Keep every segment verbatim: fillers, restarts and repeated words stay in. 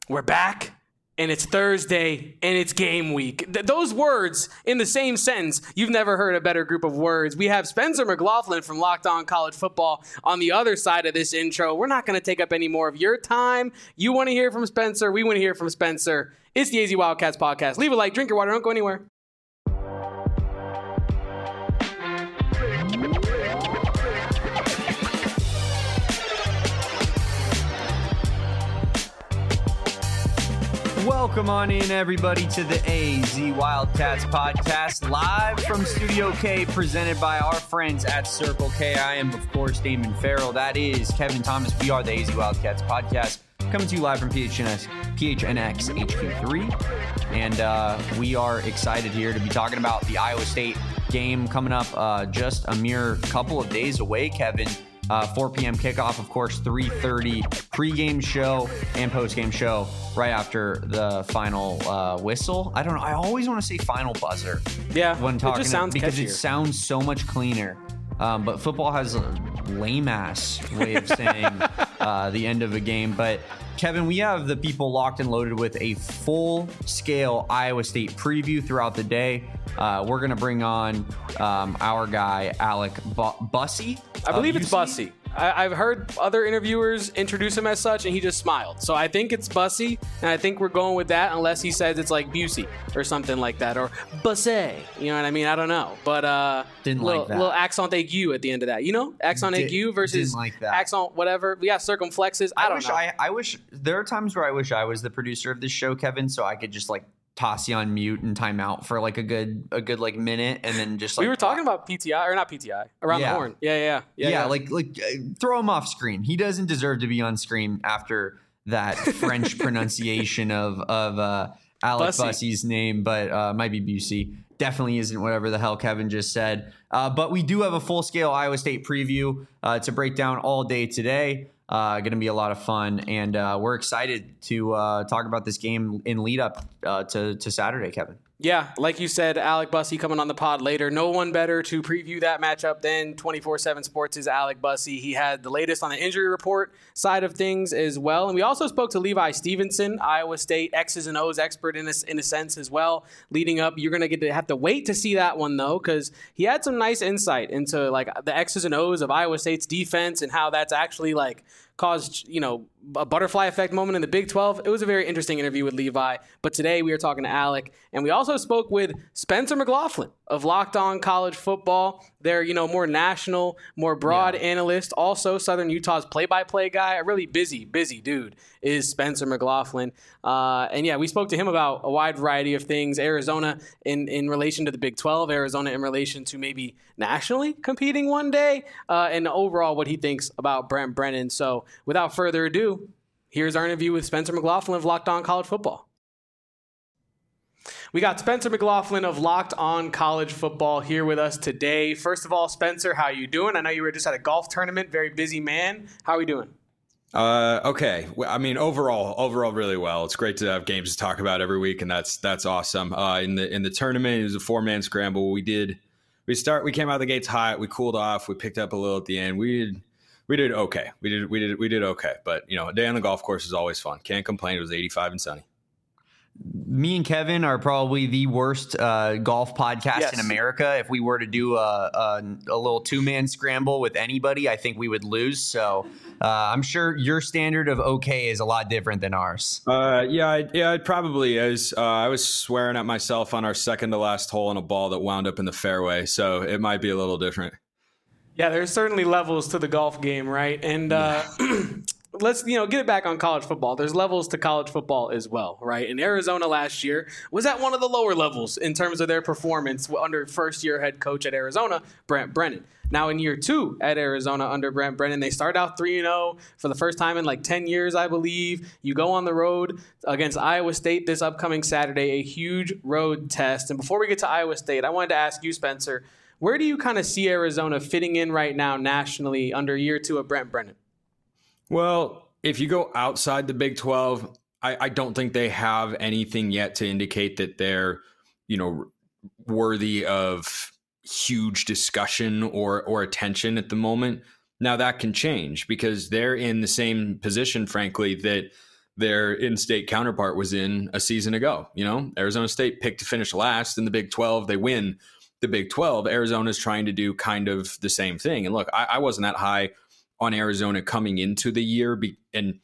We're back, and it's Thursday, and it's game week. Th- those words in the same sentence, you've never heard a better group of words. We have Spencer McLaughlin from Locked On College Football on the other side of this intro. We're not going to take up any more of your time. You want to hear from Spencer. We want to hear from Spencer. It's the A Z Wildcats podcast. Leave a like, drink your water, don't go anywhere. Welcome on in, everybody, to the A Z Wildcats podcast, live from Studio K, presented by our friends at Circle K. I am, of course, Damon Farrell. That is Kevin Thomas. We are the A Z Wildcats podcast, coming to you live from P H N X, P H N X H Q three. And uh, we are excited here to be talking about the Iowa State game coming up uh, just a mere couple of days away, Kevin. Uh, four p.m. kickoff, of course, three thirty pregame show and postgame show right after the final uh, whistle. I don't know. I always want to say final buzzer. Yeah, when talking it just sounds because catchier. It sounds so much cleaner. Um, but football has a lame ass way of saying uh, the end of a game. But Kevin, we have the people locked and loaded with a full scale Iowa State preview throughout the day. Uh, we're going to bring on um, our guy, Alec Bu- Bussey. I believe uh, it's Bussey. I, I've heard other interviewers introduce him as such, and he just smiled. So I think it's Bussey, and I think we're going with that unless he says it's like Busey or something like that, or Bussey. You know what I mean? I don't know. But uh, Didn't little, like that. little accent aigu at the end of that. You know? Accent Did- aigu versus didn't like that. accent whatever. We got circumflexes. I, I, don't wish know. I, I wish there are times where I wish I was the producer of this show, Kevin, so I could just like toss you on mute and time out for like a good a good like minute and then just like we were talking about P T I, or not P T I, around Yeah. the horn. Yeah, yeah, yeah. yeah, yeah. like like uh, throw him off screen. He doesn't deserve to be on screen after that French pronunciation of of uh, Alec Bussey. Bussey's name, but uh, might be Busey. Definitely isn't whatever the hell Kevin just said. Uh, but we do have a full scale Iowa State preview uh, to break down all day today. Uh, going to be a lot of fun, and uh, we're excited to uh, talk about this game in lead up uh, to to Saturday, Kevin. Yeah, like you said, Alec Bussey coming on the pod later. No one better to preview that matchup than twenty-four seven Sports' Alec Bussey. He had the latest on the injury report side of things as well. And we also spoke to Levi Stevenson, Iowa State X's and O's expert in a, in a sense as well. Leading up, you're going to get to have to wait to see that one, though, because he had some nice insight into like the X's and O's of Iowa State's defense and how that's actually like caused, you know, a butterfly effect moment in the Big twelve. It was a very interesting interview with Levi. But today we are talking to Alec, and we also spoke with Spencer McLaughlin of Locked On College Football. They're, you know, more national, more broad Yeah. analyst. Also Southern Utah's play-by-play guy. A really busy, busy dude is Spencer McLaughlin. Uh, and yeah, we spoke to him about a wide variety of things. Arizona in, in relation to the Big twelve, Arizona in relation to maybe nationally competing one day, uh, and overall what he thinks about Brent Brennan. So without further ado, here's our interview with Spencer McLaughlin of Locked On College Football. We got Spencer McLaughlin of Locked On College Football here with us today. First of all, Spencer, how you doing? I know you were just at a golf tournament, very busy man. How are we doing? Uh, okay. Well, I mean, overall, overall, really well. It's great to have games to talk about every week, and that's that's awesome. Uh, in the in the tournament, it was a four man scramble. We did we start we came out of the gates hot. We cooled off. We picked up a little at the end. We did we did okay. We did we did we did okay. But you know, a day on the golf course is always fun. Can't complain. It was eighty-five and sunny. Me and Kevin are probably the worst uh, golf podcast Yes. in America. If we were to do a, a, a little two-man scramble with anybody, I think we would lose. So uh, I'm sure your standard of okay is a lot different than ours. Uh, yeah, I, yeah, it probably is. Uh, I was swearing at myself on our second to last hole on a ball that wound up in the fairway, so it might be a little different. Yeah, there's certainly levels to the golf game, right? And uh, let's, you know, get it back on college football. There's levels to college football as well, right? And Arizona last year was at one of the lower levels in terms of their performance under first-year head coach at Arizona, Brent Brennan. Now in year two at Arizona under Brent Brennan, they start out three and oh for the first time in like ten years, I believe. You go on the road against Iowa State this upcoming Saturday, a huge road test. And before we get to Iowa State, I wanted to ask you, Spencer, where do you kind of see Arizona fitting in right now nationally under year two of Brent Brennan? Well, if you go outside the Big twelve, I, I don't think they have anything yet to indicate that they're, you know, worthy of huge discussion or or attention at the moment. Now that can change because they're in the same position, frankly, that their in-state counterpart was in a season ago. You know, Arizona State picked to finish last in the Big twelve. They win the Big twelve. Arizona's trying to do kind of the same thing. And look, I, I wasn't that high on Arizona coming into the year, be, and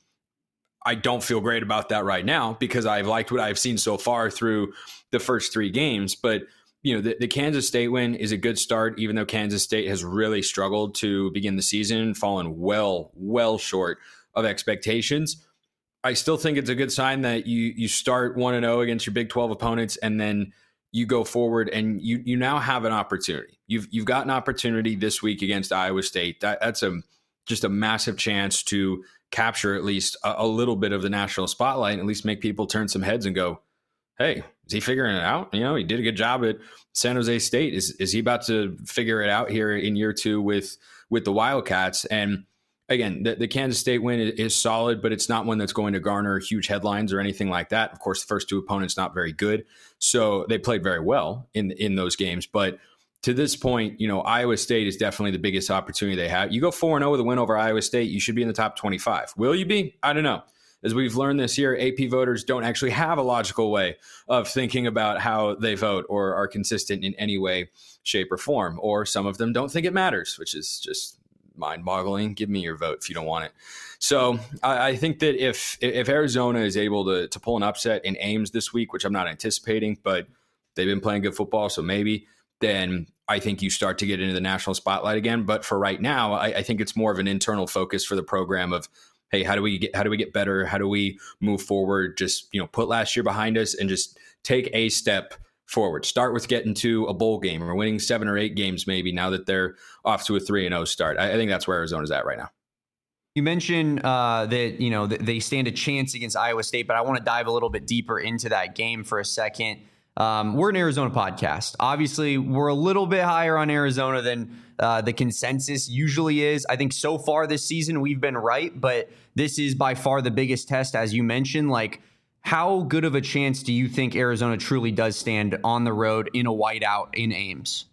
I don't feel great about that right now because I've liked what I've seen so far through the first three games. But you know, the, the Kansas State win is a good start, even though Kansas State has really struggled to begin the season, fallen well, well short of expectations. I still think it's a good sign that you you start one and oh against your Big twelve opponents, and then you go forward and you you now have an opportunity. You've you've got an opportunity this week against Iowa State. That, that's a just a massive chance to capture at least a, a little bit of the national spotlight and at least make people turn some heads and go, hey, is he figuring it out? You know, he did a good job at San Jose State. Is is he about to figure it out here in year two with with the Wildcats? And again, the, the Kansas State win is, is solid, but it's not one that's going to garner huge headlines or anything like that. Of course, the first two opponents not very good, so they played very well in in those games. But to this point, you know, Iowa State is definitely the biggest opportunity they have. You go four and oh with a win over Iowa State, you should be in the top twenty-five. Will you be? I don't know. As we've learned this year, A P voters don't actually have a logical way of thinking about how they vote or are consistent in any way, shape, or form. Or some of them don't think it matters, which is just mind-boggling. Give me your vote if you don't want it. So I, I think that if if Arizona is able to, to pull an upset in Ames this week, which I'm not anticipating, but they've been playing good football, so maybe, then I think you start to get into the national spotlight again. But for right now, I, I think it's more of an internal focus for the program of, hey, how do we get how do we get better? How do we move forward? Just, you know, put last year behind us and just take a step forward. Start with getting to a bowl game or winning seven or eight games maybe now that they're off to a three and oh start. I, I think that's where Arizona's at right now. You mentioned uh, that, you know, th- they stand a chance against Iowa State, but I want to dive a little bit deeper into that game for a second. Um, we're an Arizona podcast. Obviously, we're a little bit higher on Arizona than uh, the consensus usually is. I think so far this season, we've been right, but this is by far the biggest test, as you mentioned. Like, how good of a chance do you think Arizona truly does stand on the road in a whiteout in Ames?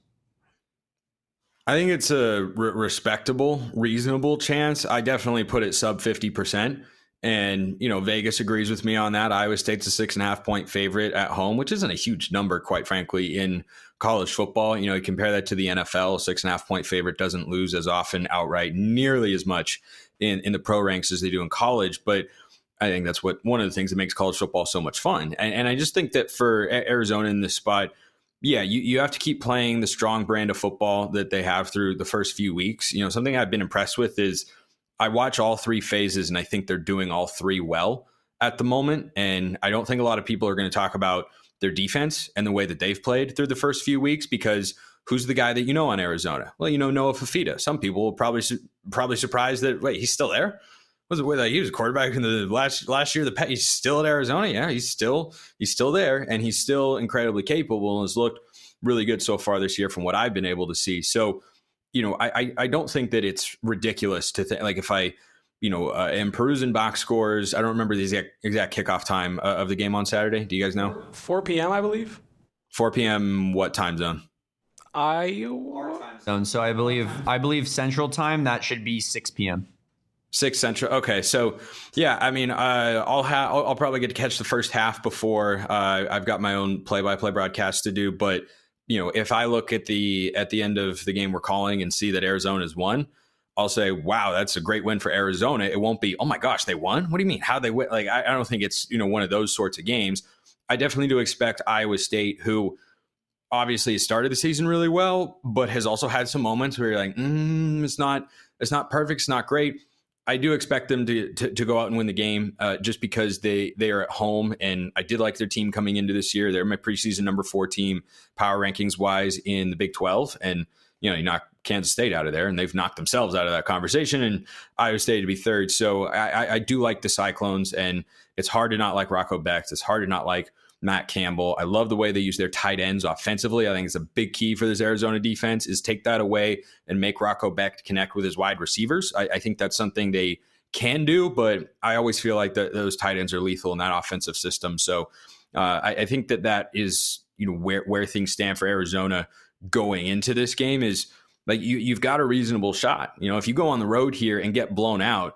I think it's a re- respectable, reasonable chance. I definitely put it sub fifty percent. And, you know, Vegas agrees with me on that. Iowa State's a six and a half point favorite at home, which isn't a huge number, quite frankly, in college football. You know, you compare that to the N F L, six and a half point favorite doesn't lose as often outright, nearly as much in, in the pro ranks as they do in college. But I think that's what one of the things that makes college football so much fun. And, and I just think that for Arizona in this spot, yeah, you, you have to keep playing the strong brand of football that they have through the first few weeks. You know, something I've been impressed with is I watch all three phases and I think they're doing all three well at the moment. And I don't think a lot of people are going to talk about their defense and the way that they've played through the first few weeks, because who's the guy that you know on Arizona? Well, you know, Noah Fifita. Some people will probably probably surprised that, wait, he's still there? Was it like he was a quarterback in the last last year? The he's still at Arizona. Yeah, he's still he's still there, and he's still incredibly capable and has looked really good so far this year from what I've been able to see. So, you know, I I don't think that it's ridiculous to think, like, if I, you know, uh, am perusing box scores. I don't remember the exact, exact kickoff time uh, of the game on Saturday. Do you guys know? four p.m. I believe. four p.m. What time zone? Iowa zone. So I believe I believe Central Time. That should be six p.m. Six Central. Okay, so yeah, I mean, uh, I'll have I'll, I'll probably get to catch the first half before uh, I've got my own play-by-play broadcast to do. But you know, if I look at the at the end of the game we're calling and see that Arizona's won, I'll say, wow, that's a great win for Arizona. It won't be, oh my gosh, they won? What do you mean? How they win? Like, I, I don't think it's, you know, one of those sorts of games. I definitely do expect Iowa State, who obviously has started the season really well, but has also had some moments where you're like, mm, it's not it's not perfect, it's not great. I do expect them to, to to go out and win the game uh, just because they they are at home, and I did like their team coming into this year. They're my preseason number four team power rankings wise in the Big twelve, and you know, you knock Kansas State out of there, and they've knocked themselves out of that conversation, and Iowa State to be third. So I, I do like the Cyclones, and it's hard to not like Rocco Becht. It's hard to not like Matt Campbell. I love the way they use their tight ends offensively. I think it's a big key for this Arizona defense is take that away and make Rocco Becht connect with his wide receivers. I, I think that's something they can do, but I always feel like the, those tight ends are lethal in that offensive system. So uh, I, I think that that is, you know, where, where things stand for Arizona going into this game is like you, you've got a reasonable shot. You know, if you go on the road here and get blown out,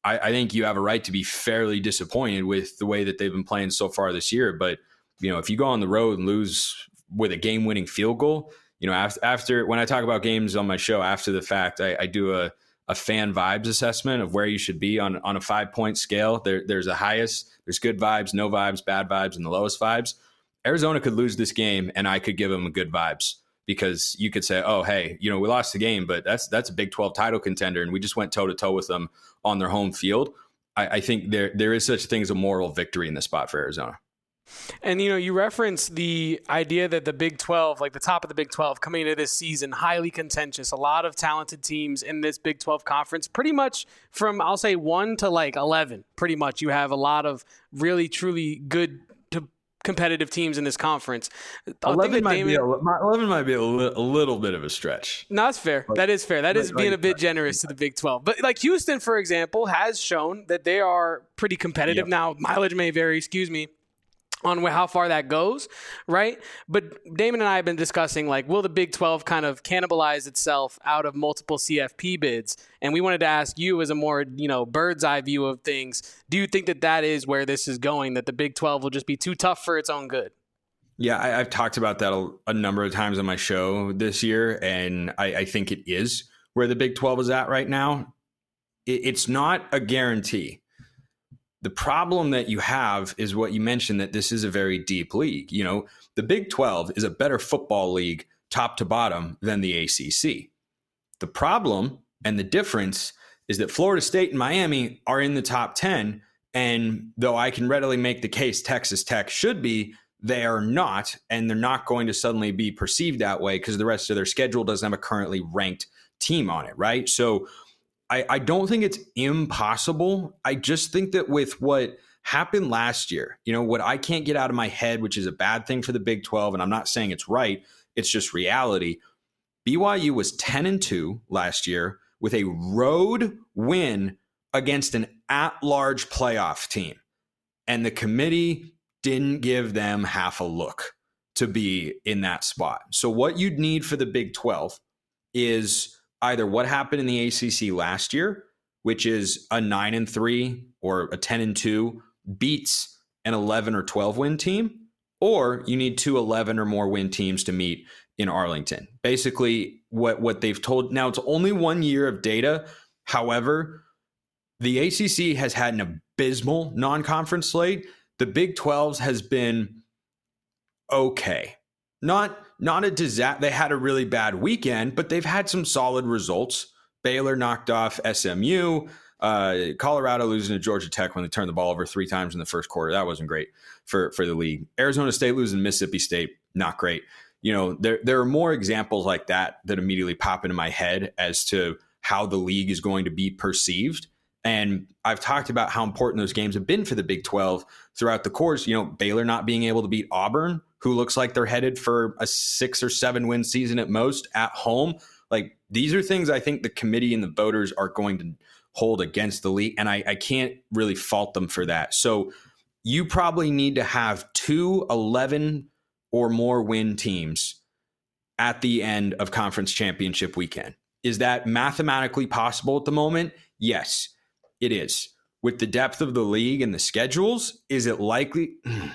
I, I think you have a right to be fairly disappointed with the way that they've been playing so far this year. But, you know, if you go on the road and lose with a game-winning field goal, you know, after, after when I talk about games on my show after the fact, I, I do a, a fan vibes assessment of where you should be on, on a five-point scale. There, there's a highest, there's good vibes, no vibes, bad vibes, and the lowest vibes. Arizona could lose this game, and I could give them a good vibes because you could say, oh, hey, you know, we lost the game, but that's that's a Big twelve title contender, and we just went toe-to-toe with them on their home field. I, I think there there is such a thing as a moral victory in this spot for Arizona. And, you know, you reference the idea that the Big twelve, like the top of the Big twelve coming into this season, highly contentious, a lot of talented teams in this Big twelve conference, pretty much from, I'll say, one to like eleven, pretty much. You have a lot of really, truly good to competitive teams in this conference. eleven might, Damon, be a, eleven might be a, li- a little bit of a stretch. No, that's fair. That is fair. That is like, being like, a bit generous to the Big twelve. But like Houston, for example, has shown that they are pretty competitive. Yep. Now, mileage may vary, excuse me, on how far that goes, right? But Damon and I have been discussing, like, will the Big twelve kind of cannibalize itself out of multiple C F P bids? And we wanted to ask you, as a more, you know, bird's eye view of things, do you think that that is where this is going, that the Big twelve will just be too tough for its own good? Yeah, I, I've talked about that a, a number of times on my show this year, and I, I think it is where the Big twelve is at right now. It, it's not a guarantee. The problem that you have is what you mentioned, that this is a very deep league. You know, the Big twelve is a better football league top to bottom than the A C C. The problem and the difference is that Florida State and Miami are in the top ten. And though I can readily make the case Texas Tech should be, they are not. And they're not going to suddenly be perceived that way because the rest of their schedule doesn't have a currently ranked team on it, right? So I, I don't think it's impossible. I just think that with what happened last year, you know, what I can't get out of my head, which is a bad thing for the Big twelve, and I'm not saying it's right, it's just reality. B Y U was ten and two last year with a road win against an at-large playoff team. And the committee didn't give them half a look to be in that spot. So what you'd need for the Big twelve is either what happened in the A C C last year, which is a nine and three or a ten and two beats an eleven or twelve win team, or you need two eleven or more win teams to meet in Arlington. Basically, what, what they've told, now it's only one year of data. However, the A C C has had an abysmal non-conference slate. The Big twelve's has been okay. Not not a disaster. They had a really bad weekend, but they've had some solid results. Baylor knocked off S M U. Uh, Colorado losing to Georgia Tech when they turned the ball over three times in the first quarter. That wasn't great for, for the league. Arizona State losing to Mississippi State, not great. You know, there there are more examples like that that immediately pop into my head as to how the league is going to be perceived. And I've talked about how important those games have been for the Big twelve throughout the course. You know, Baylor not being able to beat Auburn, who looks like they're headed for a six or seven win season at most at home. Like, these are things I think the committee and the voters are going to hold against the league. And I, I can't really fault them for that. So you probably need to have two eleven or more win teams at the end of conference championship weekend. Is that mathematically possible at the moment? Yes, it is. With the depth of the league and the schedules, is it likely?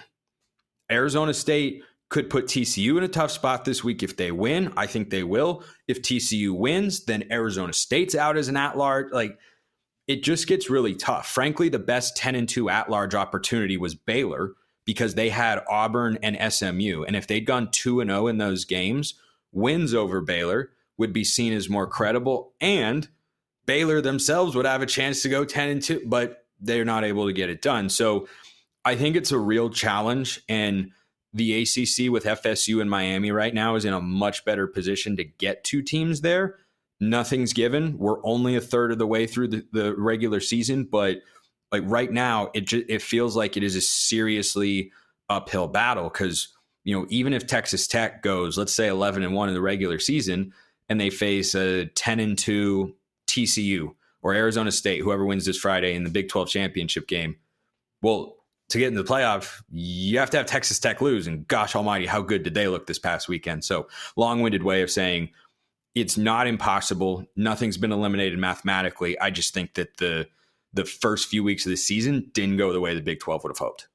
Arizona State could put T C U in a tough spot this week if they win. I think they will. If T C U wins, then Arizona State's out as an at-large. Like, it just gets really tough. Frankly, the best ten and two at-large opportunity was Baylor because they had Auburn and S M U. And if they'd gone two and oh in those games, wins over Baylor would be seen as more credible. And Baylor themselves would have a chance to go ten and two, but they're not able to get it done. So I think it's a real challenge, and the A C C with F S U and Miami right now is in a much better position to get two teams there. Nothing's given. We're only a third of the way through the, the regular season, but like right now, it just, it feels like it is a seriously uphill battle because, you know, even if Texas Tech goes, let's say eleven and one in the regular season, and they face a ten and two T C U or Arizona State, whoever wins this Friday in the Big twelve championship game, well, to get into the playoff, you have to have Texas Tech lose. And gosh almighty, how good did they look this past weekend? So long-winded way of saying it's not impossible. Nothing's been eliminated mathematically. I just think that the the first few weeks of the season didn't go the way the Big twelve would have hoped.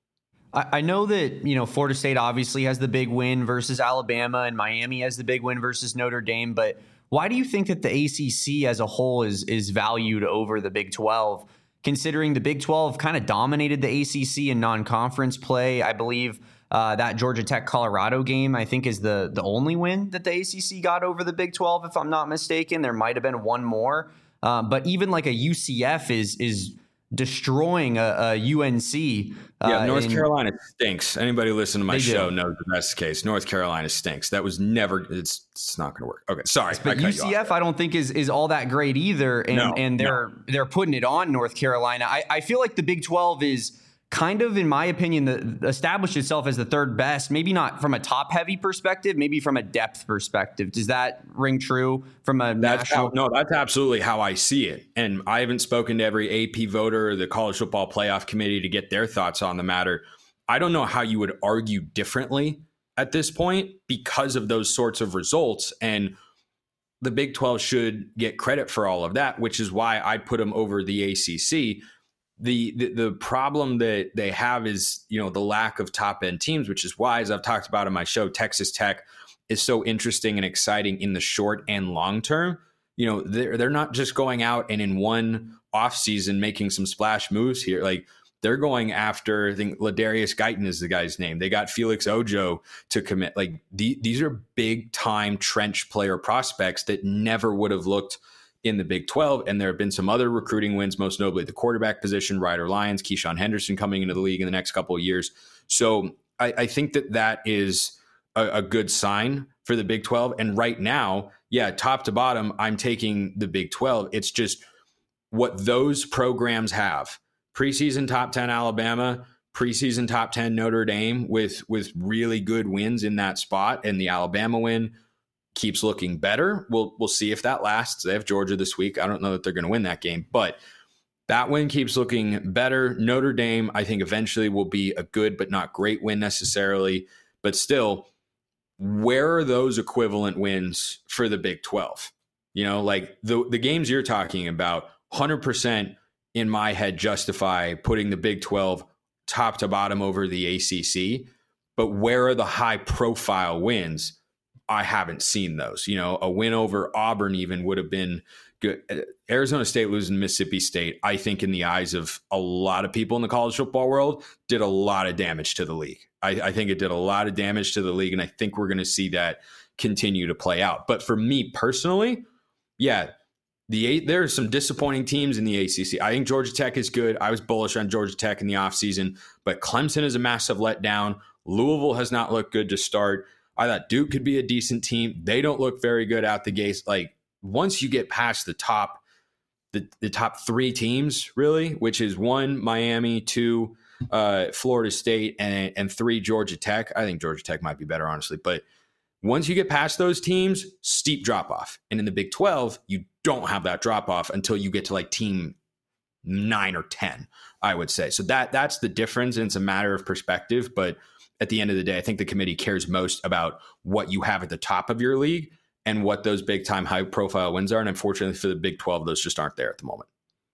I know that, you know, Florida State obviously has the big win versus Alabama, and Miami has the big win versus Notre Dame. But why do you think that the A C C as a whole is is valued over the Big twelve, considering the Big twelve kind of dominated the A C C in non-conference play? I believe uh, that Georgia Tech Colorado game, I think, is the the only win that the A C C got over the Big twelve, if I'm not mistaken. There might have been one more. Um, but even like a U C F is is destroying a, a U N C. Yeah, uh, North in, Carolina stinks. Anybody listen to my show do. knows that that's the case. North Carolina stinks. That was never. It's it's not going to work. Okay, sorry. But I U C F, I don't think is is all that great either, and No, and they're no. they're putting it on North Carolina. I, I feel like the Big twelve is kind of, in my opinion, the, established itself as the third best. Maybe not from a top heavy perspective, maybe from a depth perspective. Does that ring true from a That's national? how, no, that's absolutely how I see it. And I haven't spoken to every A P voter or the College Football Playoff Committee to get their thoughts on the matter. I don't know how you would argue differently at this point because of those sorts of results. And the Big twelve should get credit for all of that, which is why I put them over the A C C. The, the the problem that they have is, you know, the lack of top end teams, which is why, as I've talked about in my show, Texas Tech is so interesting and exciting in the short and long term. You know, they're they're not just going out and in one offseason making some splash moves here. Like, they're going after, I think Ladarius Guyton is the guy's name. They got Felix Ojo to commit. Like, the, these are big time trench player prospects that never would have looked in the Big twelve. And there have been some other recruiting wins, most notably the quarterback position, Ryder Lyons, Keyshawn Henderson coming into the league in the next couple of years. So I, I think that that is a, a good sign for the Big twelve. And right now, yeah, top to bottom, I'm taking the Big twelve. It's just what those programs have. Preseason top ten Alabama, preseason top ten Notre Dame with, with really good wins in that spot. And the Alabama win keeps looking better. We'll we'll see if that lasts. They have Georgia this week. I don't know that they're going to win that game, but that win keeps looking better. Notre Dame, I think, eventually will be a good but not great win necessarily. But still, where are those equivalent wins for the Big twelve? You know, like the the games you're talking about, one hundred percent in my head justify putting the Big twelve top to bottom over the A C C. But where are the high profile wins? I haven't seen those. You know, a win over Auburn even would have been good. Arizona State losing to Mississippi State, I think in the eyes of a lot of people in the college football world, did a lot of damage to the league. I, I think it did a lot of damage to the league, and I think we're going to see that continue to play out. But for me personally, yeah, the eight, there are some disappointing teams in the A C C. I think Georgia Tech is good. I was bullish on Georgia Tech in the offseason, but Clemson is a massive letdown. Louisville has not looked good to start. I thought Duke could be a decent team. They don't look very good out the gates. Like, once you get past the top, the, the top three teams, really, which is one, Miami, two, uh, Florida State, and, and three, Georgia Tech. I think Georgia Tech might be better, honestly. But once you get past those teams, steep drop off. And in the Big twelve, you don't have that drop off until you get to like team nine or ten, I would say. So that that's the difference. And it's a matter of perspective. But at the end of the day, I think the committee cares most about what you have at the top of your league and what those big time high profile wins are. And unfortunately for the Big twelve, those just aren't there at the moment.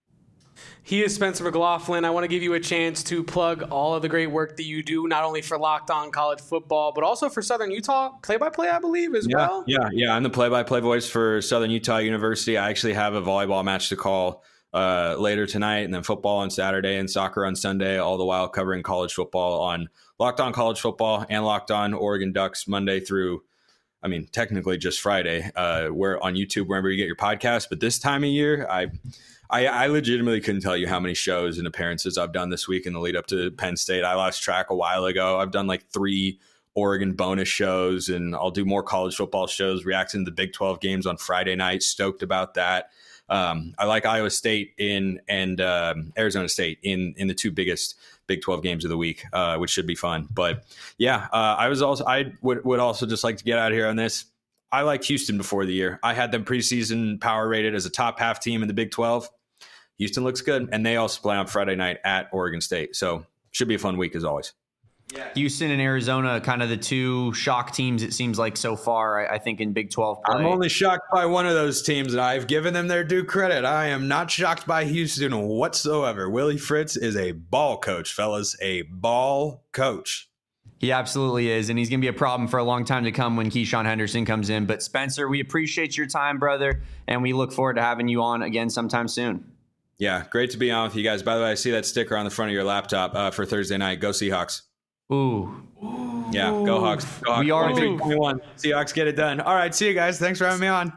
He is Spencer McLaughlin. I want to give you a chance to plug all of the great work that you do, not only for Locked On College Football, but also for Southern Utah play-by-play, I believe, as yeah, well. Yeah, yeah. I'm the play-by-play voice for Southern Utah University. I actually have a volleyball match to call uh, later tonight, and then football on Saturday and soccer on Sunday, all the while covering college football on Locked On College Football and Locked On Oregon Ducks Monday through, I mean, technically just Friday. Uh, we're on YouTube, wherever you get your podcast. But this time of year, I... I, I legitimately couldn't tell you how many shows and appearances I've done this week in the lead up to Penn State. I lost track a while ago. I've done like three Oregon bonus shows, and I'll do more college football shows, reacting to the Big twelve games on Friday night. Stoked about that. Um, I like Iowa State in and um, Arizona State in in the two biggest Big twelve games of the week, uh, which should be fun. But yeah, uh, I was also I would would also just like to get out here on this. I liked Houston before the year. I had them preseason power rated as a top half team in the Big twelve. Houston looks good, and they also play on Friday night at Oregon State. So should be a fun week as always. Yeah. Houston and Arizona, kind of the two shock teams, it seems like so far, I, I think, in Big twelve play. I'm only shocked by one of those teams, and I've given them their due credit. I am not shocked by Houston whatsoever. Willie Fritz is a ball coach, fellas, a ball coach. He absolutely is, and he's going to be a problem for a long time to come when Keyshawn Henderson comes in. But, Spencer, we appreciate your time, brother, and we look forward to having you on again sometime soon. Yeah, great to be on with you guys. By the way, I see that sticker on the front of your laptop uh, for Thursday night. Go Seahawks. Ooh. Yeah, go Hawks. Go Hawks. We are twenty-one. Seahawks get it done. All right, see you guys. Thanks for having me on.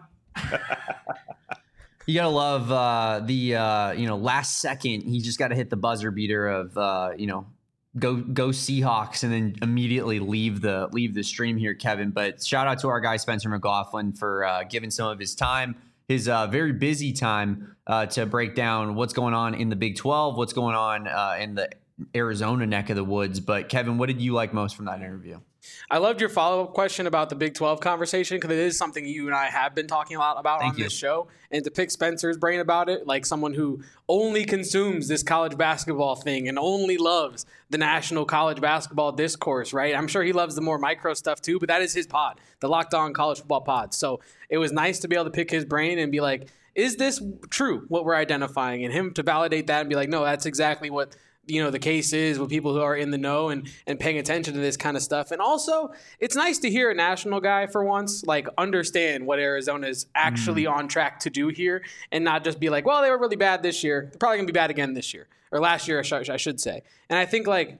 You gotta love uh, the uh, you know last second. He just got to hit the buzzer beater of uh, you know go go Seahawks, and then immediately leave the leave the stream here, Kevin. But shout out to our guy Spencer McLaughlin for uh, giving some of his time, his uh, very busy time, uh, to break down what's going on in the Big twelve, what's going on uh, in the Arizona neck of the woods. But Kevin, what did you like most from that interview? I loved your follow-up question about the Big twelve conversation, because it is something you and I have been talking a lot about Thank on you. this show. And to pick Spencer's brain about it, like someone who only consumes this college basketball thing and only loves the national college basketball discourse, right? I'm sure he loves the more micro stuff too, but that is his pod, the Locked On College Football Pod. So it was nice to be able to pick his brain and be like, is this true, what we're identifying? And him to validate that and be like, no, that's exactly what you know the case is with people who are in the know and and paying attention to this kind of stuff. And also, it's nice to hear a national guy for once like understand what Arizona is actually mm. on track to do here, and not just be like, well, they were really bad this year, they're probably gonna be bad again this year, or last year I, sh- I should say. And I think like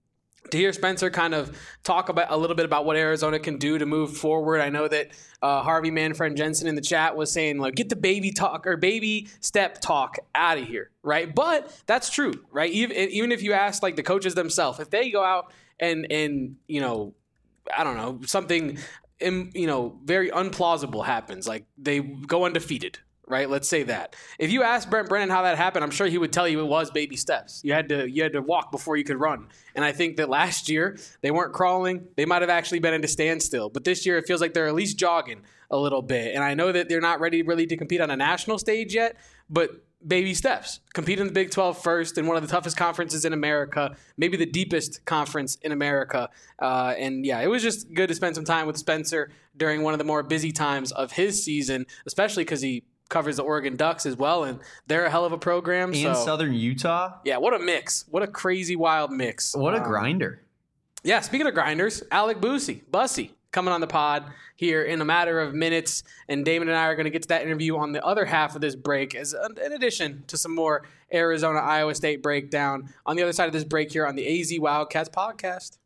to hear Spencer kind of talk about a little bit about what Arizona can do to move forward. I know that uh, Harvey Manfred Jensen in the chat was saying, like, get the baby talk or baby step talk out of here, right? But that's true, right? Even, even if you ask, like, the coaches themselves, if they go out and, and you know, I don't know, something, you know, very unplausible happens, like they go undefeated, right? Let's say that. If you ask Brent Brennan how that happened, I'm sure he would tell you it was baby steps. You had to you had to walk before you could run. And I think that last year they weren't crawling. They might have actually been into standstill. But this year it feels like they're at least jogging a little bit. And I know that they're not ready really to compete on a national stage yet, but baby steps. Compete in the Big twelve first in one of the toughest conferences in America, maybe the deepest conference in America. Uh, and yeah, it was just good to spend some time with Spencer during one of the more busy times of his season, especially because he covers the Oregon Ducks as well, and they're a hell of a program. And so, Southern Utah. Yeah, what a mix. What a crazy, wild mix. What a um, grinder. Yeah, speaking of grinders, Alec Bussey, Bussey, coming on the pod here in a matter of minutes, and Damon and I are going to get to that interview on the other half of this break, as in addition to some more Arizona-Iowa State breakdown on the other side of this break here on the A Z Wildcats podcast.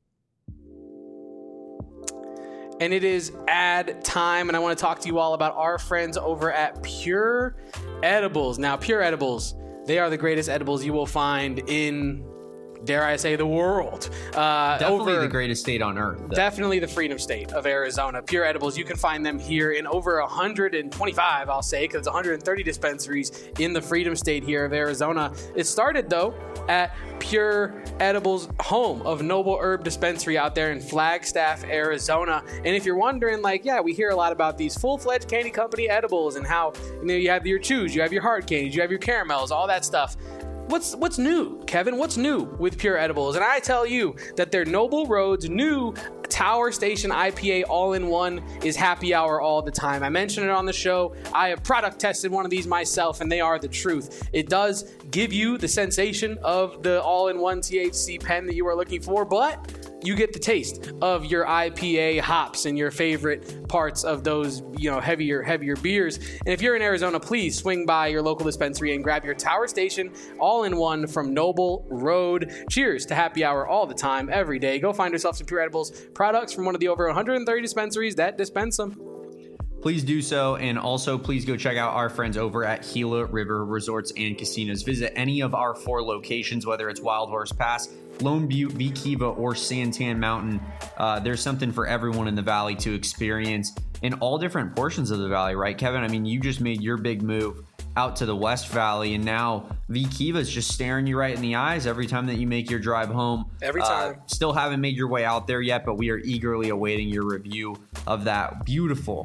And it is ad time, and I want to talk to you all about our friends over at Pure Edibles. Now, Pure Edibles, they are the greatest edibles you will find in, dare I say, the world. Uh, definitely over, the greatest state on earth. Though. Definitely the freedom state of Arizona. Pure Edibles, you can find them here in over one hundred twenty-five, I'll say, because it's one hundred thirty dispensaries in the freedom state here of Arizona. It started, though, at Pure Edibles, home of Noble Herb Dispensary out there in Flagstaff, Arizona. And if you're wondering, like, yeah, we hear a lot about these full-fledged candy company edibles and how, you know, you have your chews, you have your hard candies, you have your caramels, all that stuff. What's what's new, Kevin? What's new with Pure Edibles? And I tell you that their Noble Road's new Tower Station I P A all-in-one is happy hour all the time. I mentioned it on the show. I have product tested one of these myself, and they are the truth. It does give you the sensation of the all-in-one T H C pen that you are looking for, but you get the taste of your I P A hops and your favorite parts of those, you know, heavier, heavier beers. And if you're in Arizona, please swing by your local dispensary and grab your Tower Station all-in-one from Noble Road. Cheers to happy hour all the time, every day. Go find yourself some Pure Edibles products from one of the over one hundred thirty dispensaries that dispense them. Please do so, and also please go check out our friends over at Gila River Resorts and Casinos. Visit any of our four locations, whether it's Wild Horse Pass, Lone Butte, V Kiva, or Santan Mountain. Uh, there's something for everyone in the valley to experience in all different portions of the valley, right, Kevin? I mean, you just made your big move out to the West Valley, and now V Kiva is just staring you right in the eyes every time that you make your drive home. Every time. Uh, still haven't made your way out there yet, but we are eagerly awaiting your review of that beautiful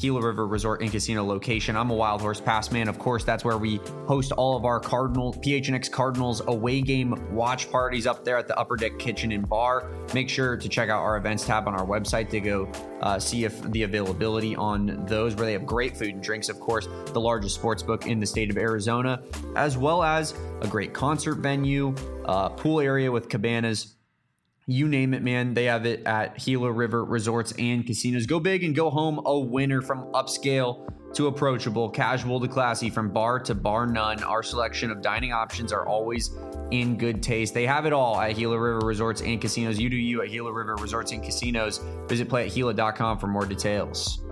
Gila River Resort and Casino location. I'm a Wild Horse Pass man. Of course, that's where we host all of our Cardinals, P H N X Cardinals away game watch parties up there at the Upper Deck Kitchen and Bar. Make sure to check out our events tab on our website to go uh, see if the availability on those, where they have great food and drinks, of course, the largest sports book in the state of Arizona, as well as a great concert venue, uh, pool area with cabanas. You name it, man. They have it at Gila River Resorts and Casinos. Go big and go home a winner, from upscale to approachable, casual to classy, from bar to bar none. Our selection of dining options are always in good taste. They have it all at Gila River Resorts and Casinos. You do you at Gila River Resorts and Casinos. Visit play at gila dot com for more details.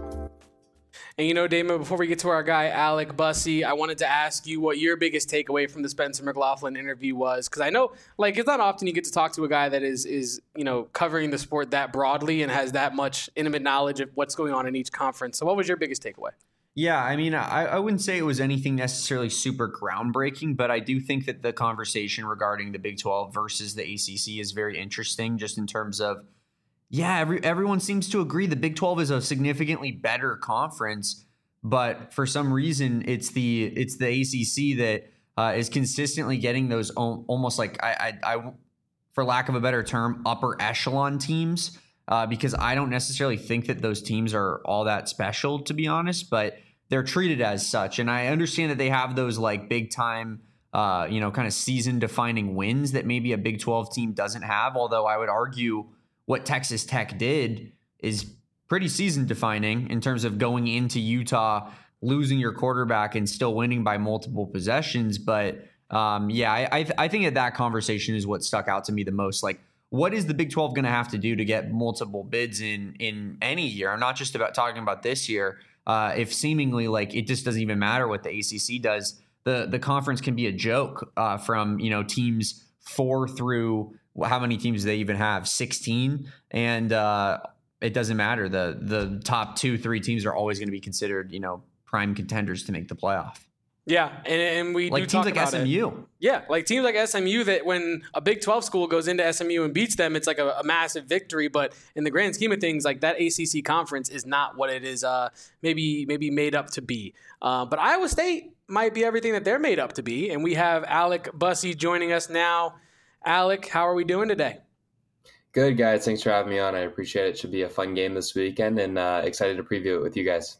And you know, Damon, before we get to our guy, Alec Bussey, I wanted to ask you what your biggest takeaway from the Spencer McLaughlin interview was. Because I know, like, it's not often you get to talk to a guy that is, is, you know, covering the sport that broadly and has that much intimate knowledge of what's going on in each conference. So what was your biggest takeaway? Yeah, I mean, I, I wouldn't say it was anything necessarily super groundbreaking, but I do think that the conversation regarding the Big twelve versus the A C C is very interesting, just in terms of, yeah, every, everyone seems to agree the Big twelve is a significantly better conference, but for some reason it's the it's the A C C that uh, is consistently getting those o- almost like I, I, I, for lack of a better term, upper echelon teams. Uh, because I don't necessarily think that those teams are all that special, to be honest, but they're treated as such. And I understand that they have those like big time, uh, you know, kind of season defining wins that maybe a Big twelve team doesn't have. Although I would argue what Texas Tech did is pretty season defining in terms of going into Utah, losing your quarterback and still winning by multiple possessions. But um, yeah, I, I, th- I think that that conversation is what stuck out to me the most. Like, what is the Big twelve going to have to do to get multiple bids in in any year? I'm not just about talking about this year. Uh, if seemingly like it just doesn't even matter what the A C C does, the the conference can be a joke uh, from, you know, teams four through how many teams do they even have? sixteen, and uh, it doesn't matter. The the top two, three teams are always going to be considered, you know, prime contenders to make the playoff. Yeah, and, and we like do teams talk like about S M U. It. Yeah, like teams like S M U, that when a Big twelve school goes into S M U and beats them, it's like a, a massive victory. But in the grand scheme of things, like that A C C conference is not what it is uh, maybe maybe made up to be. Uh, but Iowa State might be everything that they're made up to be. And we have Alec Bussey joining us now. Alec, how are we doing today? Good, guys. Thanks for having me on. I appreciate it. It should be a fun game this weekend, and uh, excited to preview it with you guys.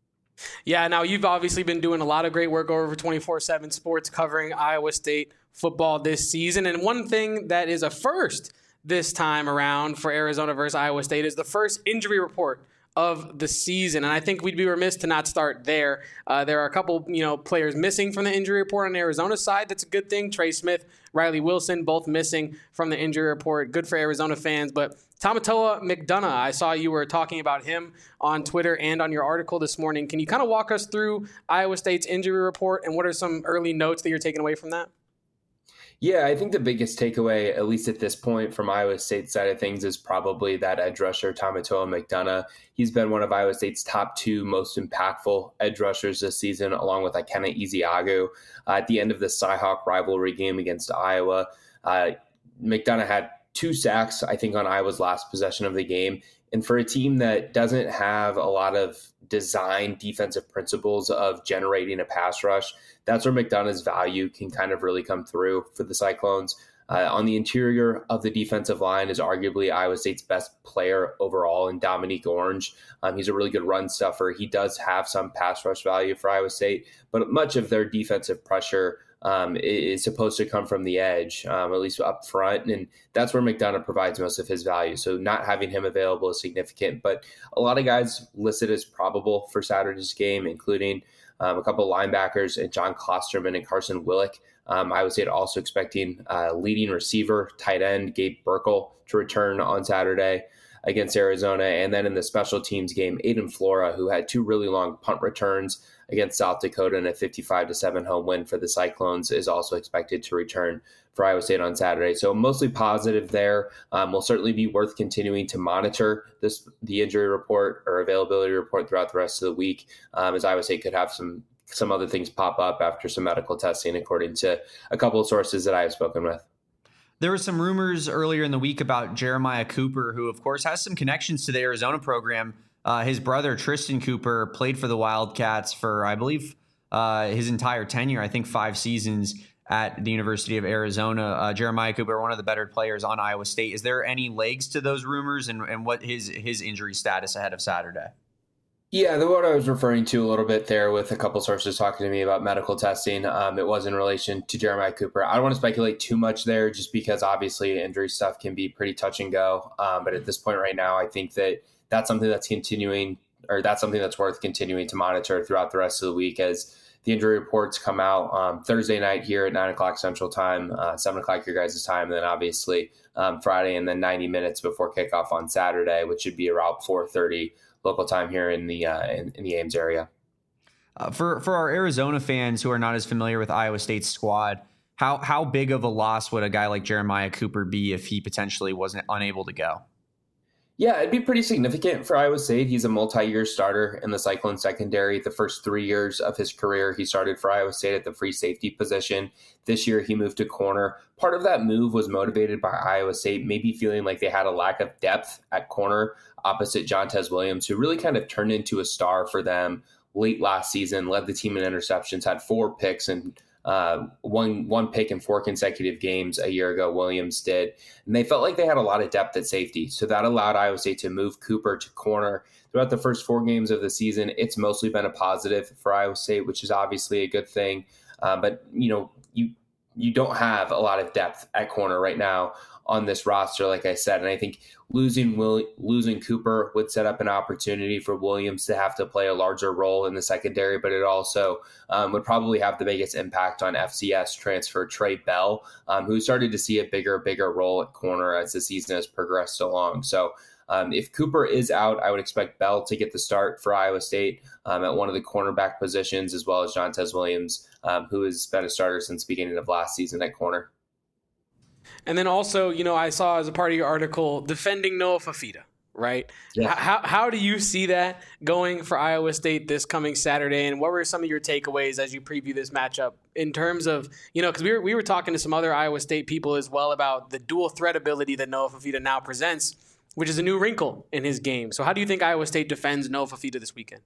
Yeah, now you've obviously been doing a lot of great work over twenty-four seven Sports covering Iowa State football this season. And one thing that is a first this time around for Arizona versus Iowa State is the first injury report of the season. And I think we'd be remiss to not start there. Uh, there are a couple, you know, players missing from the injury report on Arizona's side. That's a good thing. Trey Smith, Riley Wilson, both missing from the injury report. Good for Arizona fans. But Tamatoa McDonough, I saw you were talking about him on Twitter and on your article this morning. Can you kind of walk us through Iowa State's injury report and what are some early notes that you're taking away from that? Yeah, I think the biggest takeaway, at least at this point, from Iowa State's side of things is probably that edge rusher, Tamatoa McDonough. He's been one of Iowa State's top two most impactful edge rushers this season, along with Ikenna Ezeagu. Uh, at the end of the Cyhawk rivalry game against Iowa, uh, McDonough had two sacks, I think, on Iowa's last possession of the game. And for a team that doesn't have a lot of design defensive principles of generating a pass rush, that's where McDonough's value can kind of really come through for the Cyclones. Uh, on the interior of the defensive line is arguably Iowa State's best player overall in Dominique Orange. Um, he's a really good run stuffer. He does have some pass rush value for Iowa State, but much of their defensive pressure um, is supposed to come from the edge, um, at least up front. And that's where McDonough provides most of his value. So not having him available is significant, but a lot of guys listed as probable for Saturday's game, including um, a couple of linebackers and John Klosterman and Carson Willick. Um, I would say also expecting uh, leading receiver, tight end, Gabe Burkle to return on Saturday against Arizona. And then in the special teams game, Aiden Flora, who had two really long punt returns against South Dakota and a fifty-five to seven home win for the Cyclones, is also expected to return for Iowa State on Saturday. So mostly positive there. Um, will certainly be worth continuing to monitor this, the injury report or availability report throughout the rest of the week, um, as Iowa State could have some some other things pop up after some medical testing, according to a couple of sources that I have spoken with. There were some rumors earlier in the week about Jeremiah Cooper, who, of course, has some connections to the Arizona program. Uh, his brother, Tristan Cooper, played for the Wildcats for, I believe, uh, his entire tenure, I think five seasons at the University of Arizona. Uh, Jeremiah Cooper, one of the better players on Iowa State. Is there any legs to those rumors, and, and what his his injury status ahead of Saturday? Yeah, the what I was referring to a little bit there with a couple sources talking to me about medical testing, um, it was in relation to Jeremiah Cooper. I don't want to speculate too much there just because obviously injury stuff can be pretty touch and go. Um, but at this point right now, I think that that's something that's continuing, or that's something that's worth continuing to monitor throughout the rest of the week as the injury reports come out um, Thursday night here at nine o'clock Central Time, uh, seven o'clock your guys' time, and then obviously um, Friday, and then ninety minutes before kickoff on Saturday, which should be around four thirty local time here in the uh, in, in the Ames area. Uh, for for our Arizona fans who are not as familiar with Iowa State's squad, how how big of a loss would a guy like Jeremiah Cooper be if he potentially wasn't unable to go? Yeah, it'd be pretty significant for Iowa State. He's a multi-year starter in the Cyclone secondary. The first three years of his career, he started for Iowa State at the free safety position. This year, he moved to corner. Part of that move was motivated by Iowa State maybe feeling like they had a lack of depth at corner opposite Jontez Williams, who really kind of turned into a star for them late last season, led the team in interceptions, had four picks and uh, one one pick in four consecutive games a year ago, Williams did. And they felt like they had a lot of depth at safety. So that allowed Iowa State to move Cooper to corner. Throughout the first four games of the season, it's mostly been a positive for Iowa State, which is obviously a good thing. Uh, but, you know, you you don't have a lot of depth at corner right now on this roster, like I said. And I think losing Will, losing Cooper would set up an opportunity for Williams to have to play a larger role in the secondary, but it also um, would probably have the biggest impact on F C S transfer Trey Bell, um, who started to see a bigger, bigger role at corner as the season has progressed along. So um, if Cooper is out, I would expect Bell to get the start for Iowa State um, at one of the cornerback positions, as well as Jontez Williams, um, who has been a starter since the beginning of last season at corner. And then also, you know, I saw as a part of your article, defending Noah Fifita, right? Yeah. How how do you see that going for Iowa State this coming Saturday? And what were some of your takeaways as you preview this matchup in terms of, you know, because we were, we were talking to some other Iowa State people as well about the dual threat ability that Noah Fifita now presents, which is a new wrinkle in his game. So how do you think Iowa State defends Noah Fifita this weekend?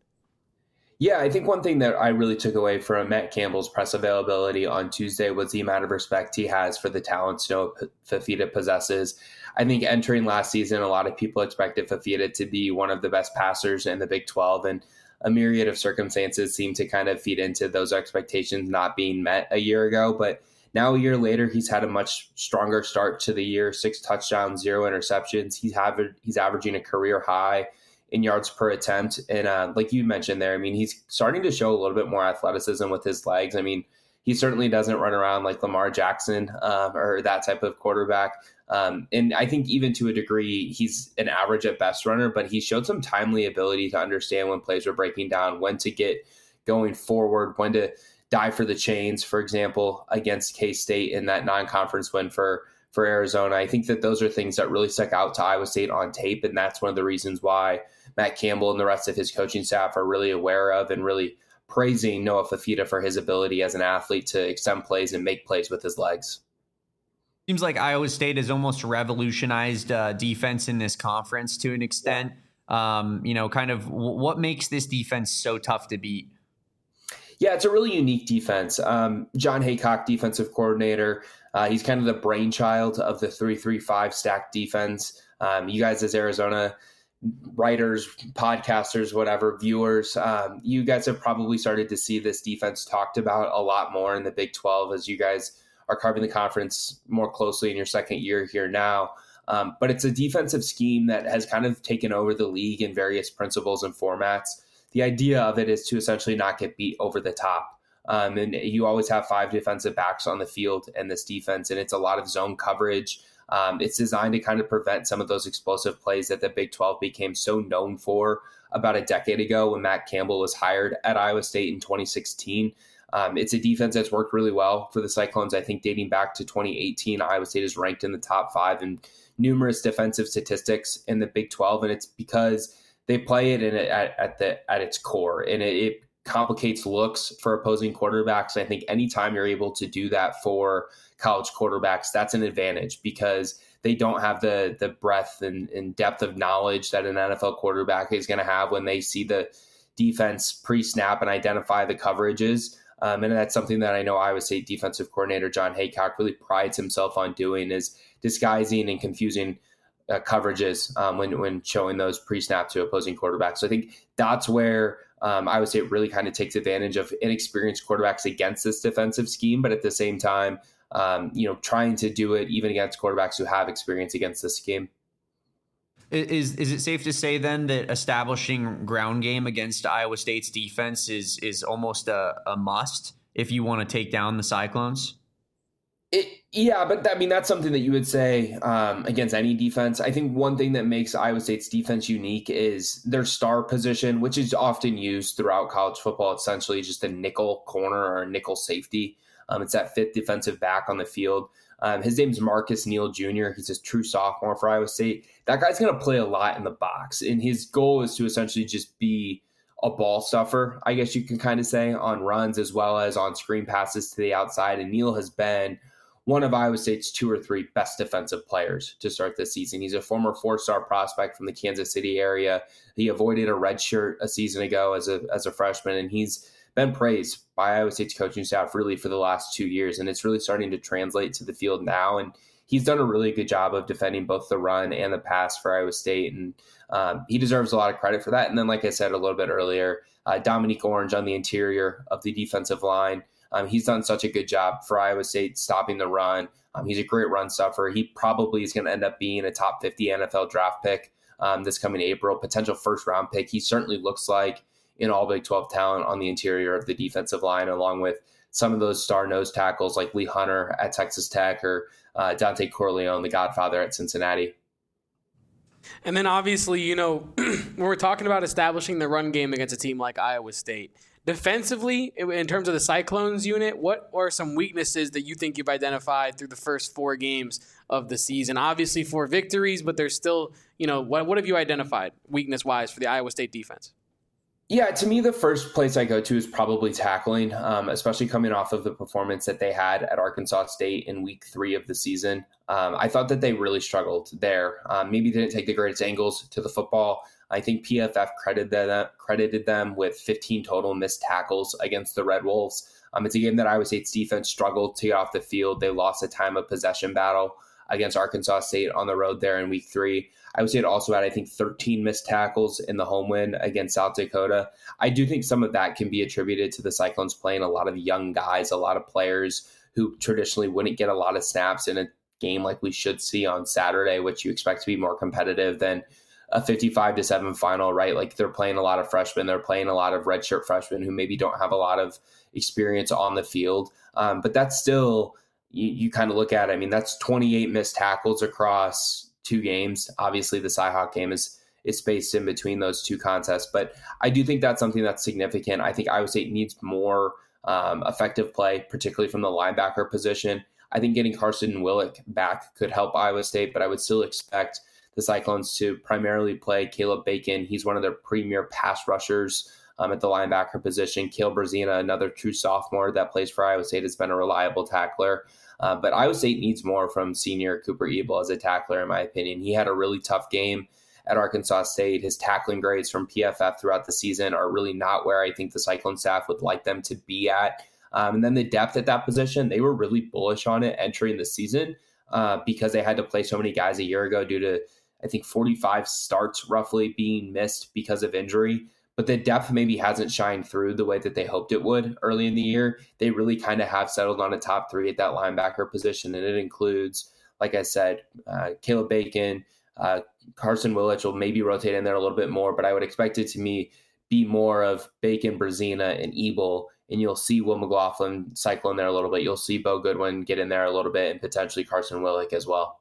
Yeah, I think one thing that I really took away from Matt Campbell's press availability on Tuesday was the amount of respect he has for the talents Noah Fifita possesses. I think entering last season, a lot of people expected Fifita to be one of the best passers in the Big twelve, and a myriad of circumstances seemed to kind of feed into those expectations not being met a year ago. But now a year later, he's had a much stronger start to the year, six touchdowns, zero interceptions. He's, aver- he's averaging a career high in yards per attempt. And uh, like you mentioned there, I mean, he's starting to show a little bit more athleticism with his legs. I mean, he certainly doesn't run around like Lamar Jackson uh, or that type of quarterback. Um, and I think even to a degree, he's an average at best runner, but he showed some timely ability to understand when plays were breaking down, when to get going forward, when to dive for the chains, for example, against K-State in that non-conference win for for Arizona. I think that those are things that really stuck out to Iowa State on tape, and that's one of the reasons why Matt Campbell and the rest of his coaching staff are really aware of and really praising Noah Fifita for his ability as an athlete to extend plays and make plays with his legs. Seems like Iowa State has almost revolutionized uh, defense in this conference to an extent. Um, you know, kind of w- what makes this defense so tough to beat? Yeah, it's a really unique defense. Um, John Haycock, defensive coordinator, uh, he's kind of the brainchild of the three three five stacked defense. Um, you guys as Arizona writers, podcasters, whatever, viewers, um, you guys have probably started to see this defense talked about a lot more in the Big twelve as you guys are carving the conference more closely in your second year here now. Um, but it's a defensive scheme that has kind of taken over the league in various principles and formats. The idea of it is to essentially not get beat over the top. Um, and you always have five defensive backs on the field in this defense, and it's a lot of zone coverage. Um, it's designed to kind of prevent some of those explosive plays that the Big twelve became so known for about a decade ago when Matt Campbell was hired at Iowa State in twenty sixteen. Um, it's a defense that's worked really well for the Cyclones. I think dating back to twenty eighteen, Iowa State is ranked in the top five in numerous defensive statistics in the Big twelve, and it's because they play it in it at, at the at its core, and it, it complicates looks for opposing quarterbacks. And I think anytime you're able to do that for college quarterbacks, that's an advantage because they don't have the the breadth and, and depth of knowledge that an N F L quarterback is going to have when they see the defense pre-snap and identify the coverages. Um, and that's something that I know Iowa State defensive coordinator John Haycock really prides himself on doing, is disguising and confusing uh, coverages um, when when showing those pre-snap to opposing quarterbacks. So I think that's where um, Iowa State really kind of takes advantage of inexperienced quarterbacks against this defensive scheme, but at the same time, um, you know, trying to do it even against quarterbacks who have experience against this scheme. Is is it safe to say then that establishing ground game against Iowa State's defense is is almost a, a must if you want to take down the Cyclones? It, yeah, but I mean, that's something that you would say um, against any defense. I think one thing that makes Iowa State's defense unique is their star position, which is often used throughout college football, essentially just a nickel corner or a nickel safety. Um, it's that fifth defensive back on the field. Um, his name's Marcus Neal Junior He's a true sophomore for Iowa State. That guy's going to play a lot in the box, and his goal is to essentially just be a ball stuffer, I guess you can kind of say, on runs as well as on screen passes to the outside. And Neal has been one of Iowa State's two or three best defensive players to start this season. He's a former four-star prospect from the Kansas City area. He avoided a red shirt a season ago as a as a freshman, and he's been praised by Iowa State's coaching staff really for the last two years, and it's really starting to translate to the field now. And he's done a really good job of defending both the run and the pass for Iowa State, and um, he deserves a lot of credit for that. And then, like I said a little bit earlier, uh, Dominique Orange on the interior of the defensive line. Um, he's done such a good job for Iowa State stopping the run. Um, he's a great run stuffer. He probably is going to end up being a top fifty N F L draft pick um, this coming April, potential first round pick. He certainly looks like in all Big twelve talent on the interior of the defensive line, along with some of those star nose tackles like Lee Hunter at Texas Tech or uh, Dante Corleone, the Godfather at Cincinnati. And then obviously, you know, when we're talking about establishing the run game against a team like Iowa State, defensively, in terms of the Cyclones unit, what are some weaknesses that you think you've identified through the first four games of the season? Obviously four victories, but there's still, you know, what, what have you identified weakness-wise for the Iowa State defense? Yeah, to me, the first place I go to is probably tackling, um, especially coming off of the performance that they had at Arkansas State in week three of the season. Um, I thought that they really struggled there. Um, maybe didn't take the greatest angles to the football. I think P F F credited them, credited them with fifteen total missed tackles against the Red Wolves. Um, it's a game that Iowa State's defense struggled to get off the field. They lost a time of possession battle against Arkansas State on the road there in week three. Iowa State also had, I think, thirteen missed tackles in the home win against South Dakota. I do think some of that can be attributed to the Cyclones playing a lot of young guys, a lot of players who traditionally wouldn't get a lot of snaps in a game like we should see on Saturday, which you expect to be more competitive than a fifty-five to seven final, right? Like they're playing a lot of freshmen. They're playing a lot of redshirt freshmen who maybe don't have a lot of experience on the field. Um, but that's still, you, you kind of look at it. I mean, that's twenty-eight missed tackles across two games. Obviously, the Cyhawk game is is spaced in between those two contests. But I do think that's something that's significant. I think Iowa State needs more um, effective play, particularly from the linebacker position. I think getting Carson Willick back could help Iowa State, but I would still expect the Cyclones to primarily play Caleb Bacon. He's one of their premier pass rushers um, at the linebacker position. Cale Brazina, another true sophomore that plays for Iowa State, has been a reliable tackler. Uh, but Iowa State needs more from senior Cooper Ebel as a tackler, in my opinion. He had a really tough game at Arkansas State. His tackling grades from P F F throughout the season are really not where I think the Cyclone staff would like them to be at. Um, and then the depth at that position, they were really bullish on it entering the season uh, because they had to play so many guys a year ago due to, I think, forty-five starts roughly being missed because of injury. But the depth maybe hasn't shined through the way that they hoped it would early in the year. They really kind of have settled on a top three at that linebacker position, and it includes, like I said, uh, Caleb Bacon, uh, Carson Willich will maybe rotate in there a little bit more, but I would expect it to me be more of Bacon, Brazina, and Ebel, and you'll see Will McLaughlin cycle in there a little bit. You'll see Bo Goodwin get in there a little bit, and potentially Carson Willich as well.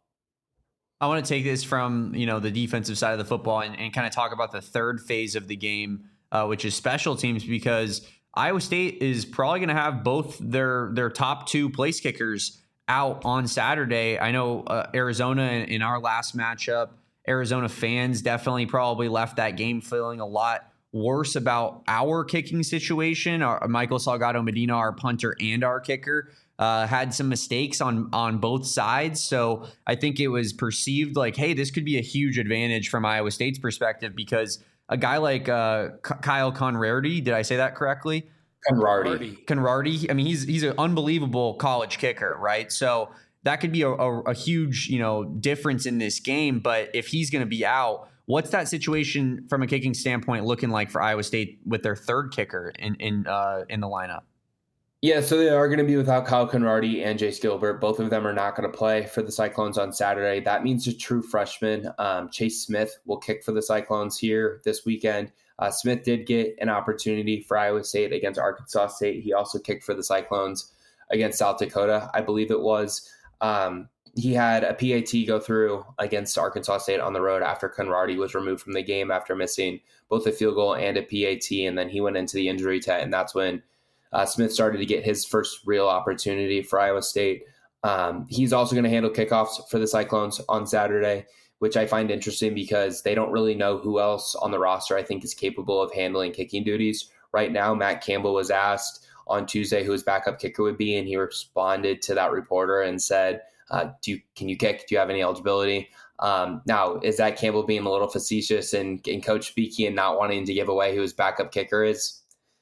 I want to take this from, you know, the defensive side of the football and, and kind of talk about the third phase of the game, uh, which is special teams, because Iowa State is probably going to have both their their top two place kickers out on Saturday. I know uh, Arizona in, in our last matchup, Arizona fans definitely probably left that game feeling a lot worse about our kicking situation. Our, Michael Salgado Medina, our punter and our kicker, uh, had some mistakes on on both sides. So I think it was perceived like, hey, this could be a huge advantage from Iowa State's perspective because a guy like uh, K- Kyle Conrarity, did I say that correctly? Conrarity. Conrarity. I mean, he's he's an unbelievable college kicker, right? So that could be a, a, a huge, you know, difference in this game. But if he's going to be out, what's that situation from a kicking standpoint looking like for Iowa State with their third kicker in in uh, in the lineup? Yeah, so they are going to be without Kyle Conrarity and Jace Gilbert. Both of them are not going to play for the Cyclones on Saturday. That means a true freshman, um, Chase Smith, will kick for the Cyclones here this weekend. Uh, Smith did get an opportunity for Iowa State against Arkansas State. He also kicked for the Cyclones against South Dakota, I believe it was. Um, he had a P A T go through against Arkansas State on the road after Conrarity was removed from the game after missing both a field goal and a P A T, and then he went into the injury tent, and that's when uh, Smith started to get his first real opportunity for Iowa State. Um, he's also going to handle kickoffs for the Cyclones on Saturday, which I find interesting because they don't really know who else on the roster I think is capable of handling kicking duties right now. Matt Campbell was asked on Tuesday who his backup kicker would be, and he responded to that reporter and said, uh, do you, can you kick? Do you have any eligibility? Um, now, is that Campbell being a little facetious and, and coach speaking and not wanting to give away who his backup kicker is?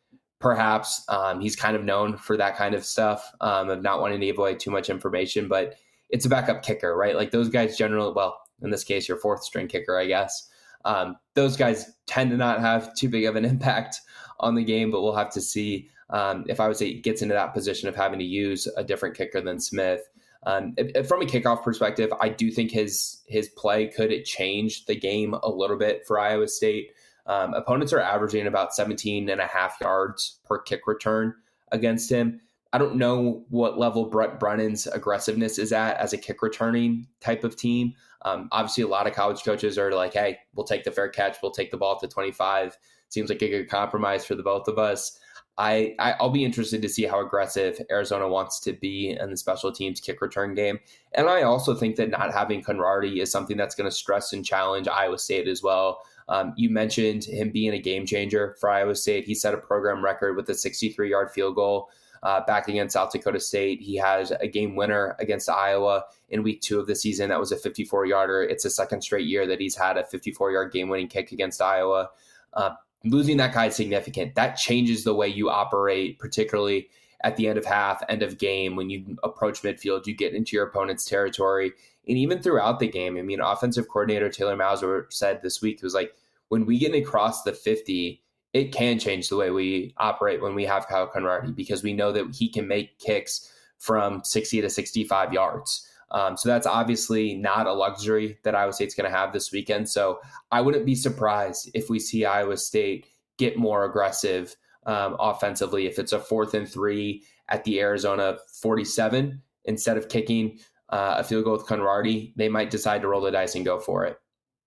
Perhaps. Um, he's kind of known for that kind of stuff, um, of not wanting to give away too much information, but it's a backup kicker, right? Like those guys generally, well, in this case, your fourth string kicker, I guess. Um, those guys tend to not have too big of an impact on the game, but we'll have to see um, if I would say he gets into that position of having to use a different kicker than Smith. Um, if, if from a kickoff perspective, I do think his his play could it change the game a little bit for Iowa State. Um, opponents are averaging about seventeen and a half yards per kick return against him. I don't know what level Brett Brennan's aggressiveness is at as a kick returning type of team. Um, obviously, a lot of college coaches are like, hey, we'll take the fair catch. We'll take the ball at the twenty-five. Seems like a good compromise for the both of us. I, I, I'll be interested to see how aggressive Arizona wants to be in the special teams kick return game. And I also think that not having Conrarity is something that's going to stress and challenge Iowa State as well. Um, you mentioned him being a game changer for Iowa State. He set a program record with a sixty-three-yard field goal Uh, back against South Dakota State. He has a game winner against Iowa in week two of the season. That was a fifty-four-yarder. It's the second straight year that he's had a fifty-four-yard game-winning kick against Iowa. Uh, losing that guy is significant. That changes the way you operate, particularly at the end of half, end of game. When you approach midfield, you get into your opponent's territory. And even throughout the game, I mean, offensive coordinator Taylor Mauser said this week, it was like, when we get across the fifty, it can change the way we operate when we have Kyle Conrarity, because we know that he can make kicks from sixty to sixty-five yards. Um, so that's obviously not a luxury that Iowa State's going to have this weekend. So I wouldn't be surprised if we see Iowa State get more aggressive um, offensively. If it's a fourth and three at the Arizona forty-seven, instead of kicking uh, a field goal with Conrarity, they might decide to roll the dice and go for it.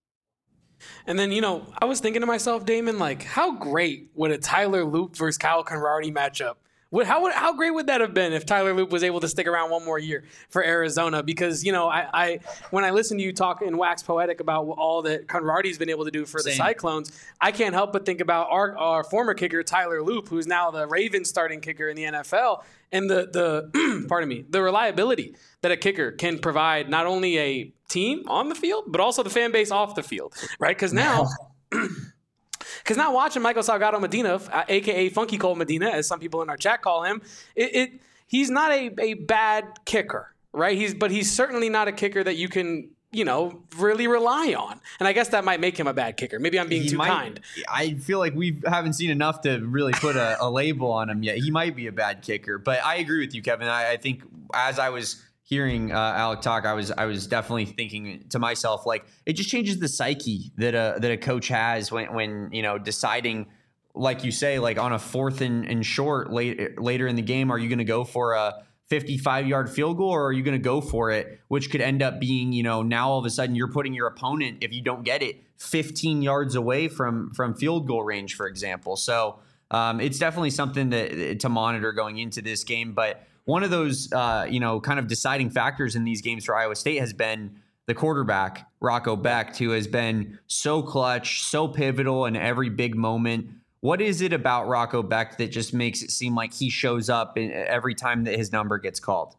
And then, you know, I was thinking to myself, Damon, like, how great would a Tyler Loop versus Kyle Conrarity matchup? Would, how would, how great would that have been if Tyler Loop was able to stick around one more year for Arizona? Because, you know, I, I when I listen to you talk and wax poetic about all that Conrarty's been able to do for Same. the Cyclones, I can't help but think about our, our former kicker, Tyler Loop, who's now the Ravens starting kicker in the N F L, and the, the pardon me, the reliability that a kicker can provide not only a team on the field, but also the fan base off the field, right? Because now... Because now watching Michael Salgado Medina, a k a. Funky Cole Medina, as some people in our chat call him, it, it he's not a, a bad kicker, right? He's But he's certainly not a kicker that you can, you know, really rely on. And I guess that might make him a bad kicker. Maybe I'm being he too might, kind. I feel like we haven't seen enough to really put a, a label on him yet. He might be a bad kicker. But I agree with you, Kevin. I, I think as I was hearing uh, Alec talk, I was I was definitely thinking to myself, like, it just changes the psyche that a that a coach has when when you know deciding, like you say, like on a fourth and, and short late, later in the game, are you going to go for a fifty-five yard field goal, or are you going to go for it, which could end up being, you know, now all of a sudden you're putting your opponent, if you don't get it, fifteen yards away from from field goal range, for example. So um, it's definitely something that to monitor going into this game, but. One of those, uh, you know, kind of deciding factors in these games for Iowa State has been the quarterback, Rocco Becht, who has been so clutch, so pivotal in every big moment. What is it about Rocco Becht that just makes it seem like he shows up in, every time that his number gets called?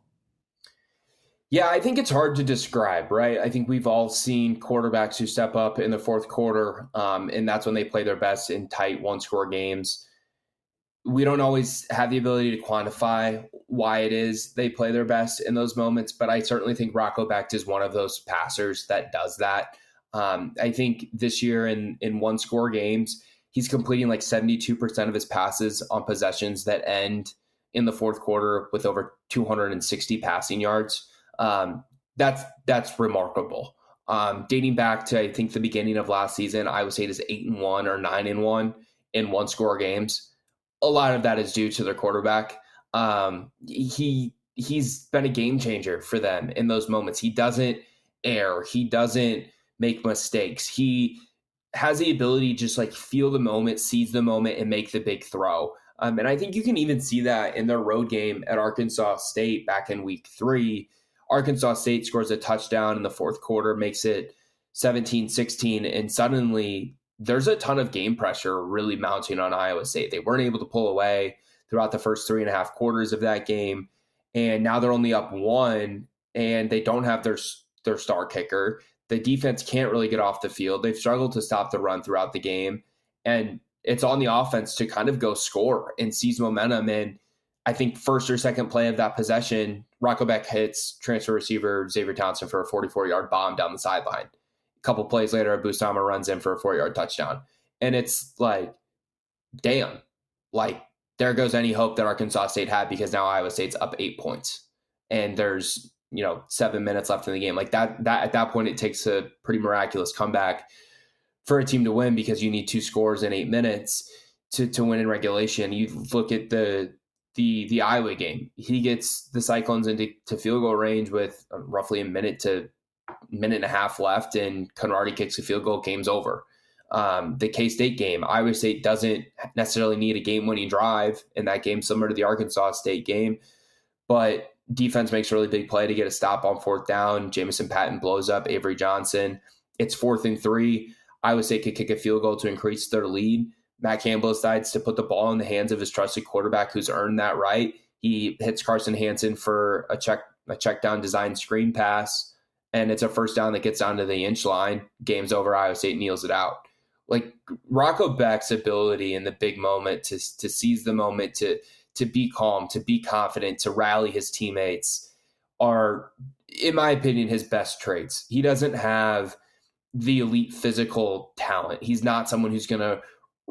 Yeah, I think it's hard to describe, right? I think we've all seen quarterbacks who step up in the fourth quarter, um, and that's when they play their best in tight one-score games. We don't always have the ability to quantify why it is they play their best in those moments, but I certainly think Rocco Becht is one of those passers that does that. Um, I think this year in, in one-score games, he's completing like seventy-two percent of his passes on possessions that end in the fourth quarter with over two hundred sixty passing yards. Um, that's that's remarkable. Um, dating back to I think the beginning of last season, Iowa State is eight and one or nine and one in one score games. A lot of that is due to their quarterback. Um, he he's been a game changer for them in those moments. He doesn't err. He doesn't make mistakes. He has the ability to just like feel the moment, seize the moment, and make the big throw. Um, and I think you can even see that in their road game at Arkansas State back in week three. Arkansas State scores a touchdown in the fourth quarter, makes it seventeen sixteen, and suddenly there's a ton of game pressure really mounting on Iowa State. They weren't able to pull away throughout the first three and a half quarters of that game, and now they're only up one, and they don't have their, their star kicker. The defense can't really get off the field. They've struggled to stop the run throughout the game, and it's on the offense to kind of go score and seize momentum. And I think first or second play of that possession, Rocco Becht hits transfer receiver Xavier Townsend for a forty-four-yard bomb down the sideline. A couple plays later, Busama runs in for a four-yard touchdown. And it's like, damn, like there goes any hope that Arkansas State had, because now Iowa State's up eight points. And there's, you know, seven minutes left in the game. Like that, that at that point, it takes a pretty miraculous comeback for a team to win, because you need two scores in eight minutes to, to win in regulation. You look at the the the Iowa game. He gets the Cyclones into to field goal range with roughly a minute to minute and a half left, and Conradi kicks a field goal, game's over. Um, the K-State game, Iowa State doesn't necessarily need a game-winning drive in that game, similar to the Arkansas State game, but defense makes a really big play to get a stop on fourth down. Jamison Patton blows up Avery Johnson. It's fourth and three. Iowa State could kick a field goal to increase their lead. Matt Campbell decides to put the ball in the hands of his trusted quarterback, who's earned that right. He hits Carson Hansen for a check a check down design screen pass, and it's a first down that gets down to the inch line. Game's over. Iowa State kneels it out. Like Rocco Becht's ability in the big moment to to seize the moment, to to be calm, to be confident, to rally his teammates are, in my opinion, his best traits. He doesn't have the elite physical talent. He's not someone who's going to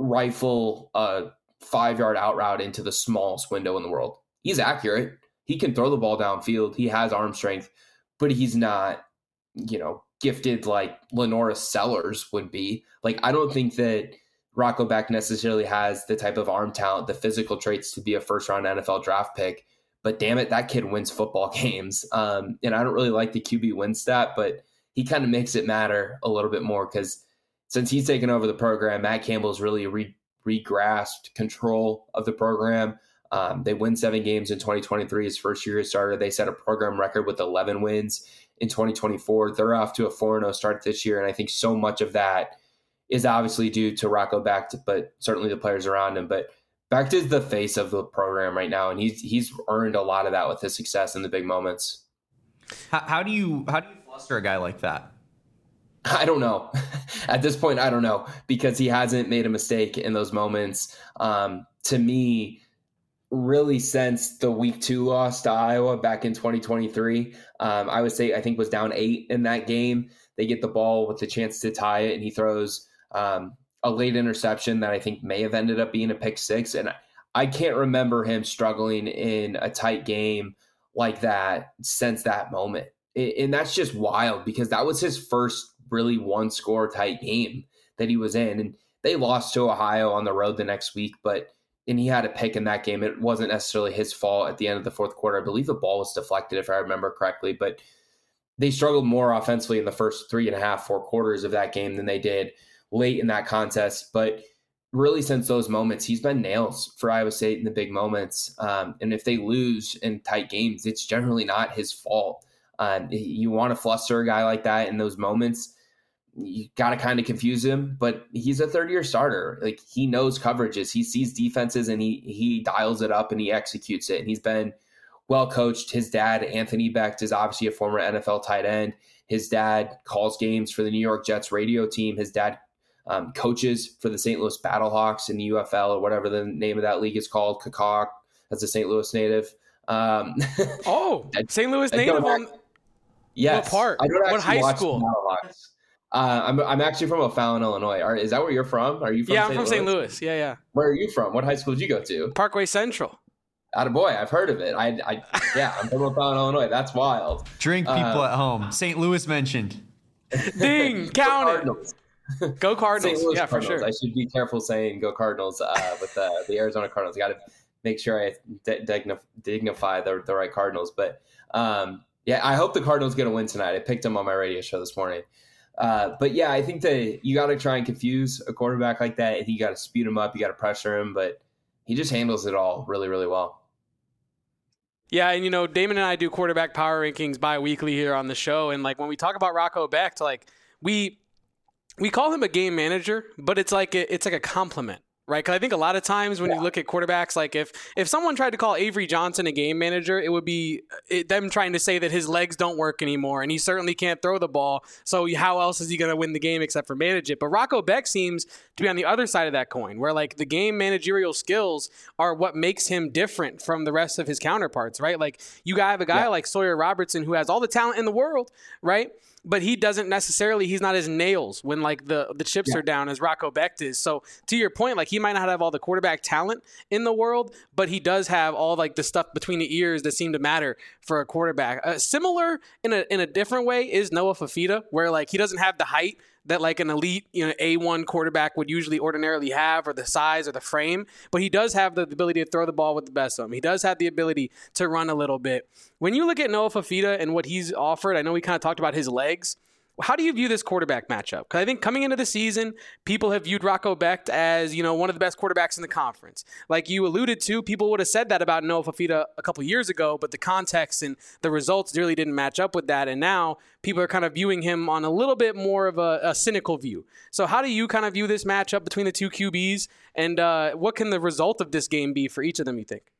rifle a five-yard out route into the smallest window in the world. He's accurate. He can throw the ball downfield. He has arm strength, but he's not, you know, gifted like Lenora Sellers would be. Like, I don't think that Rocco Becht necessarily has the type of arm talent, the physical traits to be a first-round N F L draft pick, but damn it, that kid wins football games. Um, and I don't really like the Q B win stat, but he kind of makes it matter a little bit more, because since he's taken over the program, Matt Campbell's really re- re-grasped control of the program. Um, they win seven games in twenty twenty-three, his first year as starter. They set a program record with eleven wins in twenty twenty-four. They're off to a four and oh start this year, and I think so much of that is obviously due to Rocco Becht, but certainly the players around him. But Becht is the face of the program right now, and he's he's earned a lot of that with his success in the big moments. How, how do you how do you fluster a guy like that? I don't know. At this point, I don't know, because he hasn't made a mistake in those moments. Um, to me, really since the week two loss to Iowa back in twenty twenty-three, um, Iowa State, I think, was down eight in that game. They get the ball with the chance to tie it, and he throws um, a late interception that I think may have ended up being a pick six. And I can't remember him struggling in a tight game like that since that moment. And that's just wild, because that was his first really one score tight game that he was in. And they lost to Ohio on the road the next week, but and he had a pick in that game. It wasn't necessarily his fault at the end of the fourth quarter. I believe the ball was deflected, if I remember correctly, but they struggled more offensively in the first three and a half, four quarters of that game than they did late in that contest. But really, since those moments, he's been nails for Iowa State in the big moments. Um, and if they lose in tight games, it's generally not his fault. Um, you want to fluster a guy like that in those moments. you got to kind of confuse him, but he's a third year starter. Like, he knows coverages, he sees defenses, and he, he dials it up and he executes it. And he's been well coached. His dad, Anthony Becht, is obviously a former N F L tight end. His dad calls games for the New York Jets radio team. His dad um, coaches for the Saint Louis Battlehawks in the U F L, or whatever the name of that league is called. Kakak, that's a Saint Louis native. Um, oh, Saint Louis native on yes. what part? I don't what high watch school? Battlehawks. Uh, I'm I'm actually from O'Fallon, Illinois. Are, is that where you're from? Are you from? Yeah, Saint I'm from Louis? Saint Louis. Yeah, yeah. Where are you from? What high school did you go to? Parkway Central. Attaboy, I've heard of it. I, I yeah, I'm from O'Fallon, Illinois. That's wild. Drink people uh, at home. Saint Louis mentioned. Ding, count it. Go Cardinals. Saint Louis yeah, Cardinals. for sure. I should be careful saying go Cardinals uh, with uh, the Arizona Cardinals. I got to make sure I de- dignif- dignify the, the right Cardinals. But um, yeah, I hope the Cardinals get a win tonight. I picked them on my radio show this morning. Uh, but yeah, I think that you got to try and confuse a quarterback like that, and you got to speed him up, you got to pressure him, but he just handles it all really, really well. Yeah, and you know, Damon and I do quarterback power rankings bi-weekly here on the show, and like when we talk about Rocco Becht, like we we call him a game manager, but it's like a, it's like a compliment. Right, because I think a lot of times when yeah. you look at quarterbacks, like if if someone tried to call Avery Johnson a game manager, it would be it, them trying to say that his legs don't work anymore, and he certainly can't throw the ball. So how else is he going to win the game except for manage it? But Rocco Becht seems to be on the other side of that coin, where like the game managerial skills are what makes him different from the rest of his counterparts. Right, like you have a guy yeah. like Sawyer Robertson who has all the talent in the world, right? But he doesn't necessarily, he's not as nails when like the, the chips yeah. are down as Rocco Becht is. So to your point, like he might not have all the quarterback talent in the world, but he does have all like the stuff between the ears that seem to matter for a quarterback. Uh, similar in a in a different way is Noah Fifita, where like he doesn't have the height that like an elite, you know, A one quarterback would usually ordinarily have, or the size or the frame, but he does have the ability to throw the ball with the best of them. He does have the ability to run a little bit. When you look at Noah Fifita and what he's offered, I know we kind of talked about his legs. How do you view this quarterback matchup? Because I think coming into the season, people have viewed Rocco Becht as, you know, one of the best quarterbacks in the conference. Like you alluded to, people would have said that about Noah Fifita a couple years ago, but the context and the results really didn't match up with that. And now people are kind of viewing him on a little bit more of a, a cynical view. So how do you kind of view this matchup between the two Q Bs? And uh, what can the result of this game be for each of them, you think?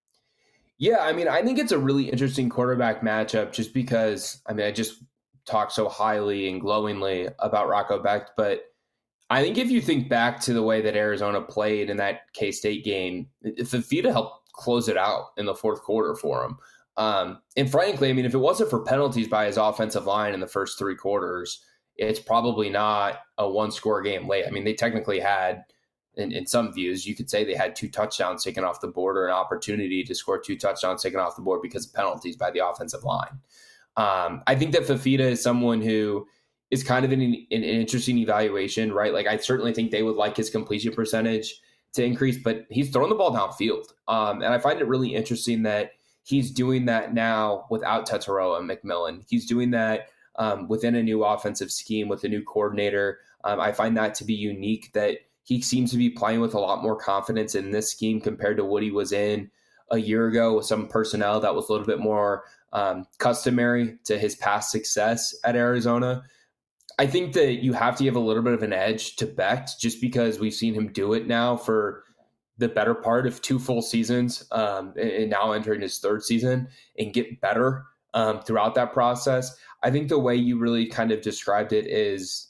Yeah, I mean, I think it's a really interesting quarterback matchup just because, I mean, I just talk so highly and glowingly about Rocco Becht, but I think if you think back to the way that Arizona played in that K-State game, Fifita helped close it out in the fourth quarter for him. Um, and frankly, I mean, if it wasn't for penalties by his offensive line in the first three quarters, it's probably not a one-score game late. I mean, they technically had, in, in some views, you could say they had two touchdowns taken off the board, or an opportunity to score two touchdowns taken off the board because of penalties by the offensive line. Um, I think that Fifita is someone who is kind of in an, an interesting evaluation, right? Like I certainly think they would like his completion percentage to increase, but he's throwing the ball downfield. Um, and I find it really interesting that he's doing that now without Tetairoa McMillan. He's doing that um, within a new offensive scheme with a new coordinator. Um, I find that to be unique, that he seems to be playing with a lot more confidence in this scheme compared to what he was in a year ago with some personnel that was a little bit more um, customary to his past success at Arizona. I think that you have to give a little bit of an edge to Becht just because we've seen him do it now for the better part of two full seasons um, and now entering his third season and get better um, throughout that process. I think the way you really kind of described it is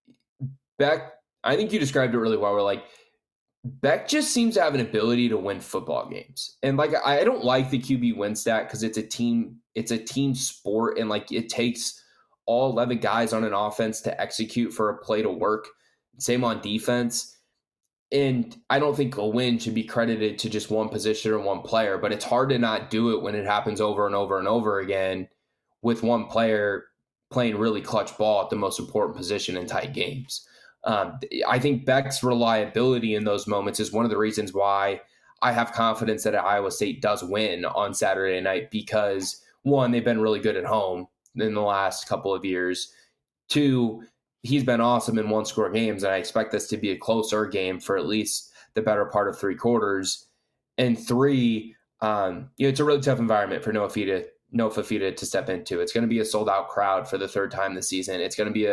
Becht, I think you described it really well. We're like, Becht just seems to have an ability to win football games. And like, I don't like the Q B win stat because it's a team, it's a team sport. And like, it takes all eleven guys on an offense to execute for a play to work. Same on defense. And I don't think a win should be credited to just one position or one player, but it's hard to not do it when it happens over and over and over again with one player playing really clutch ball at the most important position in tight games. Um, I think Becht's reliability in those moments is one of the reasons why I have confidence that Iowa State does win on Saturday night because, one, they've been really good at home in the last couple of years. Two, he's been awesome in one-score games, and I expect this to be a closer game for at least the better part of three quarters. And three, um, you know, it's a really tough environment for Noah Fifita, Noah Fifita to step into. It's going to be a sold-out crowd for the third time this season. It's going to be a,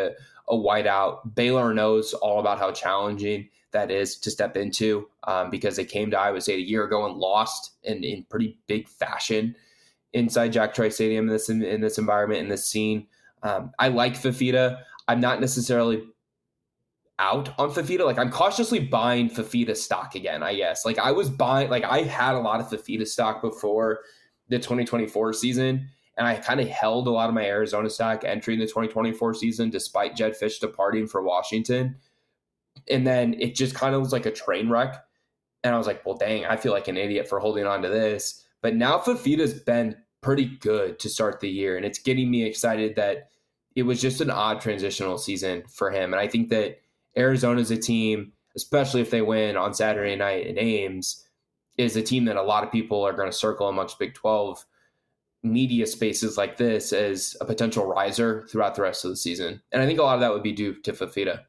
a whiteout. Baylor knows all about how challenging that is to step into um, because they came to Iowa State a year ago and lost in, in pretty big fashion inside Jack Trice Stadium in this in, in this environment, in this scene. Um, I like Fifita. I'm not necessarily out on Fifita. Like, I'm cautiously buying Fifita stock again, I guess. Like, I was buying, like, I had a lot of Fifita stock before the twenty twenty-four season, and I kind of held a lot of my Arizona stock entering the twenty twenty-four season despite Jedd Fisch departing for Washington. And then it just kind of was like a train wreck. And I was like, well, dang, I feel like an idiot for holding on to this. But now Fifita's been pretty good to start the year. And it's getting me excited that it was just an odd transitional season for him. And I think that Arizona's a team, especially if they win on Saturday night in Ames, is a team that a lot of people are going to circle amongst Big twelve media spaces like this as a potential riser throughout the rest of the season. And I think a lot of that would be due to Fifita.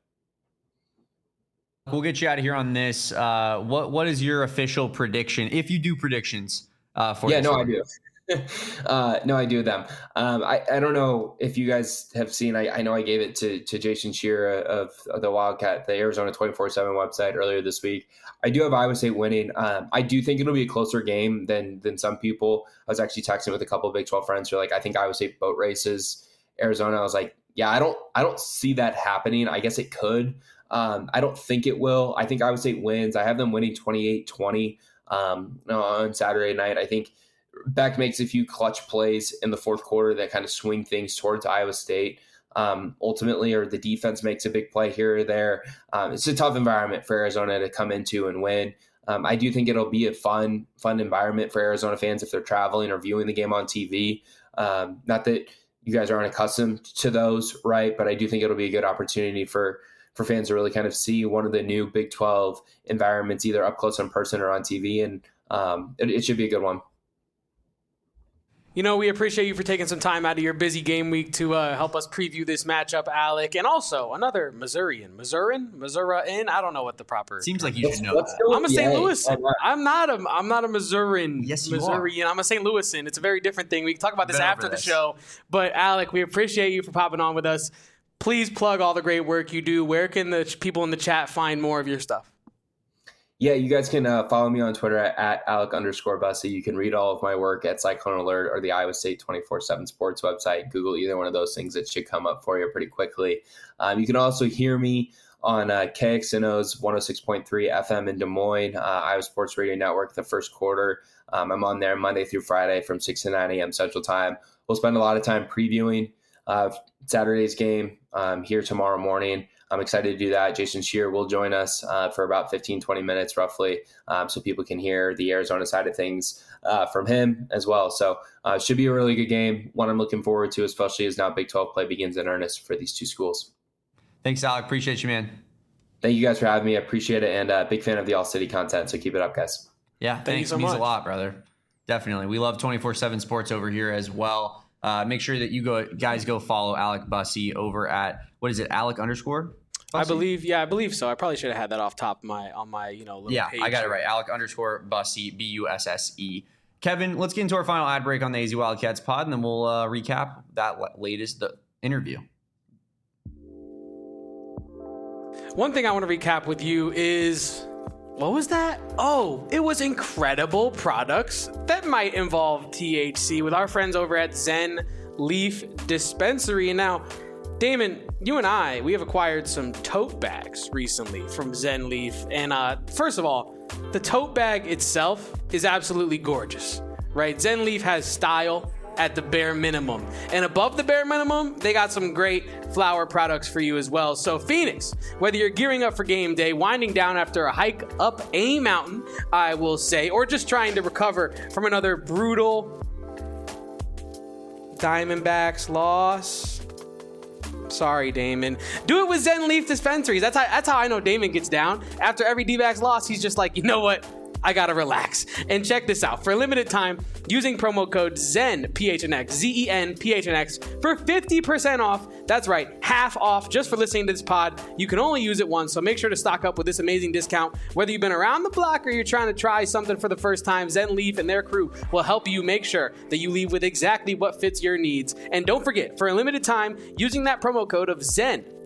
We'll get you out of here on this. Uh, what What is your official prediction, if you do predictions uh, for Yeah, this no, one? I do. uh, no, I do them. Um, I, I don't know if you guys have seen, I, I know I gave it to, to Jason Shearer of, of the Wildcat, the Arizona twenty-four seven website earlier this week. I do have Iowa State winning. Um, I do think it'll be a closer game than than some people. I was actually texting with a couple of Big twelve friends who are like, I think Iowa State boat races Arizona. I was like, yeah, I don't, I don't see that happening. I guess it could. Um, I don't think it will. I think Iowa State wins. I have them winning twenty-eight twenty um, on Saturday night. I think Beck makes a few clutch plays in the fourth quarter that kind of swing things towards Iowa State. Um, ultimately, or the defense makes a big play here or there. Um, it's a tough environment for Arizona to come into and win. Um, I do think it'll be a fun, fun environment for Arizona fans if they're traveling or viewing the game on T V. Um, not that you guys aren't accustomed to those, right? But I do think it'll be a good opportunity for for fans to really kind of see one of the new Big twelve environments, either up close in person or on T V. And um, it, it should be a good one. You know, we appreciate you for taking some time out of your busy game week to uh, help us preview this matchup, Alec. And also another Missourian. Missourian? Missourian? I don't know what the proper... Seems like you should know Let's that. go with I'm a the Saint A. Louisan. I'm not a I'm not a Missourian. Yes, you Missourian. I'm a Saint Louisan. It's a very different thing. We can talk about this Been after over the this. show. But Alec, we appreciate you for popping on with us. Please plug all the great work you do. Where can the ch- people in the chat find more of your stuff? Yeah, you guys can uh, follow me on Twitter at, at Alec underscore Bussy. You can read all of my work at Cyclone Alert or the Iowa State twenty-four seven Sports website. Google either one of those things. It should come up for you pretty quickly. Um, you can also hear me on uh, K X N O's one oh six point three F M in Des Moines, uh, Iowa Sports Radio Network, the first quarter. Um, I'm on there Monday through Friday from six to nine a.m. Central Time. We'll spend a lot of time previewing uh, Saturday's game um, here tomorrow morning. I'm excited to do that. Jason Shearer will join us uh, for about fifteen, twenty minutes roughly, um, so people can hear the Arizona side of things uh, from him as well. So uh, it should be a really good game, one I'm looking forward to, especially as now Big twelve play begins in earnest for these two schools. Thanks, Alec. Appreciate you, man. Thank you guys for having me. I appreciate it, and uh, big fan of the All-City content, so keep it up, guys. Yeah, Thank thanks. you so Means much. a lot, brother. Definitely. We love twenty-four seven Sports over here as well. Uh, make sure that you go, guys go follow Alec Bussy over at, what is it, Alec underscore? I Bussy? believe, yeah, I believe so. I probably should have had that off top of my on my, you know, little Yeah, page I got it here. right. Alec underscore Bussy, B U S S E. Kevin, let's get into our final ad break on the A Z Wildcats pod, and then we'll uh, recap that la- latest the interview. One thing I want to recap with you is, what was that? Oh, it was incredible products that might involve T H C with our friends over at Zen Leaf Dispensary. And now, Damon, you and I, we have acquired some tote bags recently from Zen Leaf. And uh, first of all, the tote bag itself is absolutely gorgeous, right? Zen Leaf has style at the bare minimum. And above the bare minimum, they got some great flower products for you as well. So Phoenix, whether you're gearing up for game day, winding down after a hike up a mountain, I will say, or just trying to recover from another brutal Diamondbacks loss. Sorry, Damon. Do it with Zen Leaf Dispensaries. That's how, that's how I know Damon gets down. After every D-backs loss, he's just like, you know what? I gotta relax. And check this out. For a limited time, using promo code ZEN, P H N X, Z E N, P H N X, for fifty percent off. That's right, half off just for listening to this pod. You can only use it once, so make sure to stock up with this amazing discount. Whether you've been around the block or you're trying to try something for the first time, Zen Leaf and their crew will help you make sure that you leave with exactly what fits your needs. And don't forget, for a limited time, using that promo code of ZEN, P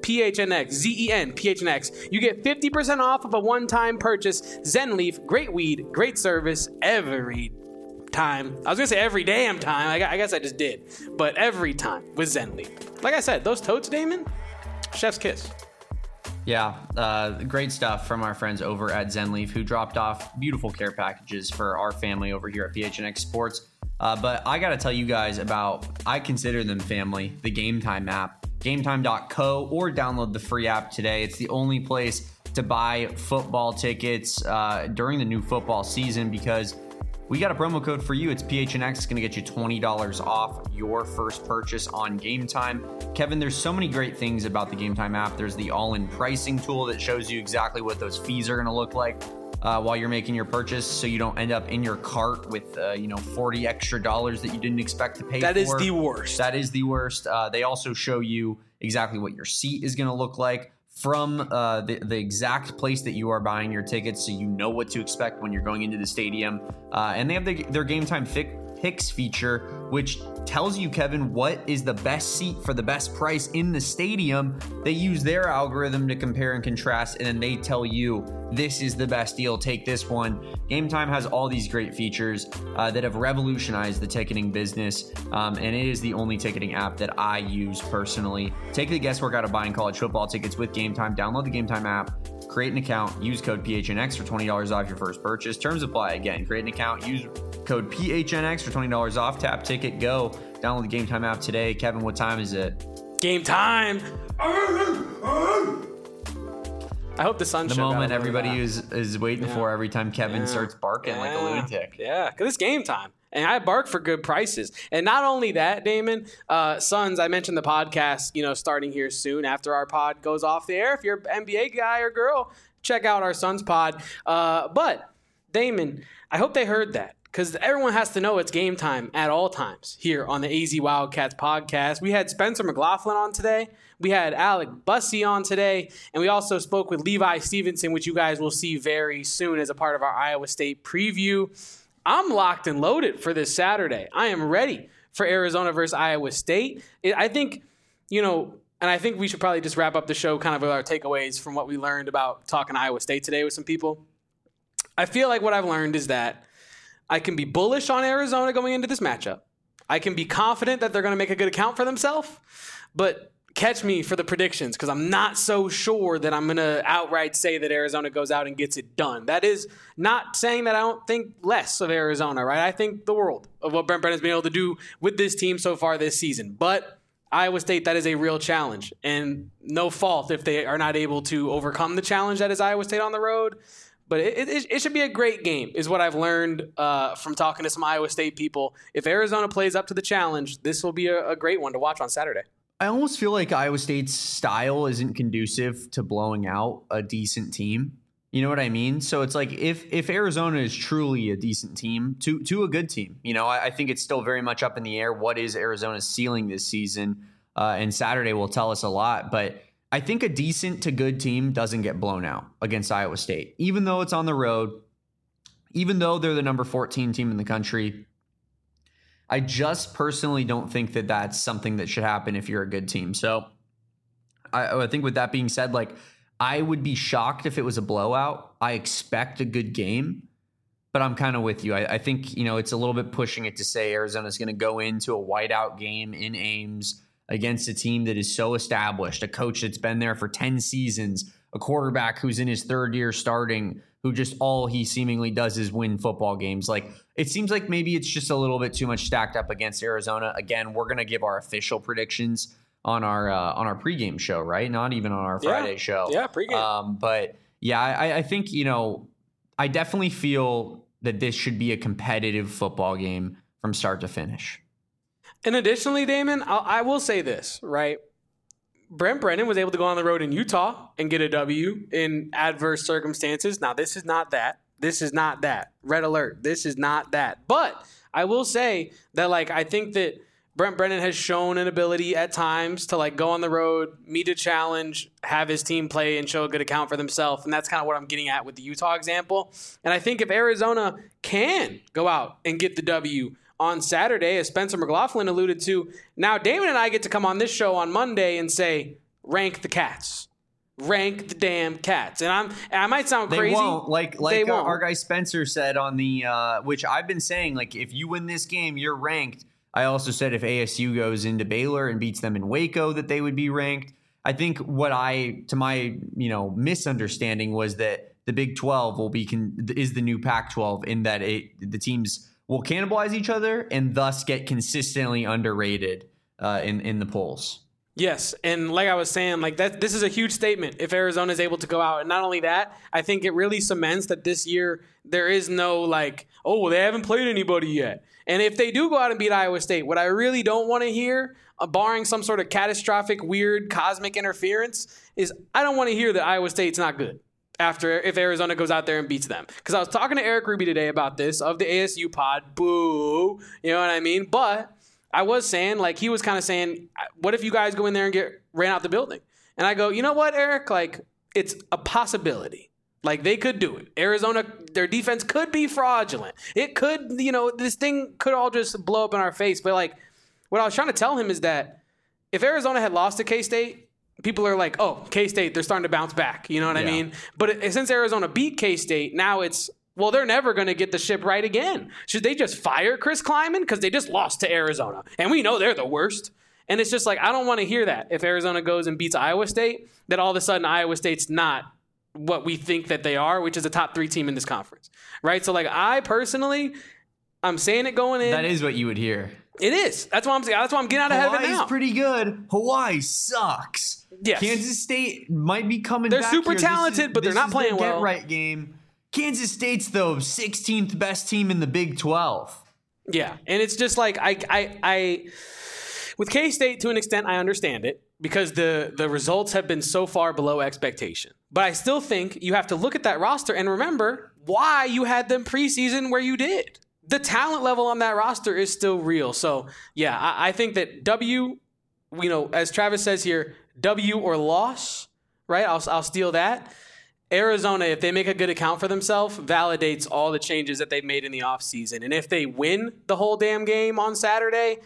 P H N X, Z E N, P H N X. You get fifty percent off of a one-time purchase. Zenleaf, great weed, great service every time. I was going to say every damn time. I guess I just did. But every time with Zenleaf. Like I said, those totes, Damon, chef's kiss. Yeah, uh, great stuff from our friends over at Zenleaf, who dropped off beautiful care packages for our family over here at P H N X Sports. Uh, but I got to tell you guys about, I consider them family, the Game Time app, game time dot co, or download the free app today. It's the only place to buy football tickets uh, during the new football season, because we got a promo code for you. It's P H N X. It's going to get you twenty dollars off your first purchase on Game Time. Kevin, there's so many great things about the Game Time app. There's the all-in pricing tool that shows you exactly what those fees are going to look like uh, while you're making your purchase, so you don't end up in your cart with uh, you know forty extra dollars that you didn't expect to pay that for. That is the worst. That is the worst. Uh, they also show you exactly what your seat is going to look like from uh, the, the exact place that you are buying your tickets, so you know what to expect when you're going into the stadium. Uh, and they have the, their Game Time fi- Picks feature, which tells you, Kevin, what is the best seat for the best price in the stadium. They use their algorithm to compare and contrast, and then they tell you, this is the best deal, take this one. Game Time has all these great features uh, that have revolutionized the ticketing business, um, and it is the only ticketing app that I use personally. Take the guesswork out of buying college football tickets with Game Time. Download the Game Time app, create an account, use code P H N X for twenty dollars off your first purchase. Terms apply. Again, create an account, use code P H N X for twenty dollars off. Tap ticket, go. Download the Game Time app today. Kevin, what time is it? Game time. I hope the sun. The moment everybody is is waiting yeah. for every time Kevin yeah. starts barking yeah. like a lunatic. Yeah, because it's game time. And I bark for good prices. And not only that, Damon, uh, Suns, I mentioned the podcast, you know, starting here soon after our pod goes off the air. If you're an N B A guy or girl, check out our Suns pod. Uh, but, Damon, I hope they heard that, because everyone has to know it's game time at all times here on the A Z Wildcats podcast. We had Spencer McLaughlin on today. We had Alec Bussey on today. And we also spoke with Levi Stevenson, which you guys will see very soon as a part of our Iowa State preview. I'm locked and loaded for this Saturday. I am ready for Arizona versus Iowa State. I think, you know, and I think we should probably just wrap up the show kind of with our takeaways from what we learned about talking Iowa State today with some people. I feel like what I've learned is that I can be bullish on Arizona going into this matchup. I can be confident that they're going to make a good account for themselves, but catch me for the predictions, because I'm not so sure that I'm going to outright say that Arizona goes out and gets it done. That is not saying that I don't think less of Arizona, right? I think the world of what Brent Brennan's been able to do with this team so far this season. But Iowa State, that is a real challenge, and no fault if they are not able to overcome the challenge that is Iowa State on the road. But it, it, it should be a great game, is what I've learned uh, from talking to some Iowa State people. If Arizona plays up to the challenge, this will be a, a great one to watch on Saturday. I almost feel like Iowa State's style isn't conducive to blowing out a decent team. You know what I mean? So it's like if if Arizona is truly a decent team to to a good team, you know, I, I think it's still very much up in the air. What is Arizona's ceiling this season? Uh, and Saturday will tell us a lot. But I think a decent to good team doesn't get blown out against Iowa State, even though it's on the road, even though they're the number fourteen team in the country. I just personally don't think that that's something that should happen if you're a good team. So I, I think with that being said, like, I would be shocked if it was a blowout. I expect a good game, but I'm kind of with you. I, I think, you know, it's a little bit pushing it to say Arizona's going to go into a whiteout game in Ames against a team that is so established, a coach that's been there for ten seasons, a quarterback who's in his third year starting, who just all he seemingly does is win football games. Like, it seems like maybe it's just a little bit too much stacked up against Arizona. Again, we're going to give our official predictions on our uh, on our pregame show, right? Not even on our Friday yeah. show. Yeah, pregame. Um, but yeah, I, I think, you know, I definitely feel that this should be a competitive football game from start to finish. And additionally, Damon, I'll, I will say this, right? Brent Brennan was able to go on the road in Utah and get a W in adverse circumstances. Now, this is not that. This is not that. Red alert. This is not that. But I will say that, like, I think that Brent Brennan has shown an ability at times to, like, go on the road, meet a challenge, have his team play, and show a good account for themselves. And that's kind of what I'm getting at with the Utah example. And I think if Arizona can go out and get the W on Saturday, as Spencer McLaughlin alluded to, now Damon and I get to come on this show on Monday and say, rank the Cats. Rank the damn Cats. And I'm and I might sound crazy. They won't. Like like they uh, won't. our guy Spencer said on the uh, which I've been saying, like if you win this game, you're ranked. I also said if A S U goes into Baylor and beats them in Waco, that they would be ranked. I think what I, to my you know misunderstanding, was that the Big twelve will be con- is the new Pac twelve in that it the teams will cannibalize each other and thus get consistently underrated uh, in in the polls. Yes, and like I was saying, like that, this is a huge statement if Arizona is able to go out. And not only that, I think it really cements that this year there is no like, oh, well, they haven't played anybody yet. And if they do go out and beat Iowa State, what I really don't want to hear, uh, barring some sort of catastrophic, weird, cosmic interference, is I don't want to hear that Iowa State's not good after if Arizona goes out there and beats them. Because I was talking to Eric Ruby today about this of the A S U pod. Boo. You know what I mean? But I was saying, like, he was kind of saying, what if you guys go in there and get ran out the building? And I go, you know what, Eric? Like, it's a possibility. Like, they could do it. Arizona, their defense could be fraudulent. It could, you know, this thing could all just blow up in our face. But, like, what I was trying to tell him is that if Arizona had lost to K-State, people are like, oh, K-State, they're starting to bounce back. You know what yeah. I mean? But it, since Arizona beat K-State, now it's, well, they're never going to get the ship right again. Should they just fire Chris Kleiman? Because they just lost to Arizona. And we know they're the worst. And it's just like, I don't want to hear that. If Arizona goes and beats Iowa State, that all of a sudden Iowa State's not what we think that they are, which is a top three team in this conference. Right? So, like, I personally, I'm saying it going in. That is what you would hear. It is. That's why I'm saying. That's why I'm getting out ahead Hawaii's of it now. pretty good. Hawaii sucks. Yes. Kansas State might be coming they're back super here. talented, is, but they're not playing well. Get right game. Kansas State's, though, sixteenth best team in the Big twelve. Yeah, and it's just like, I, I, I with K-State, to an extent, I understand it because the, the results have been so far below expectation. But I still think you have to look at that roster and remember why you had them preseason where you did. The talent level on that roster is still real. So, yeah, I, I think that W, you know, as Travis says here, W or loss, right? I'll, I'll steal that. Arizona, if they make a good account for themselves, validates all the changes that they've made in the offseason. And if they win the whole damn game on Saturday,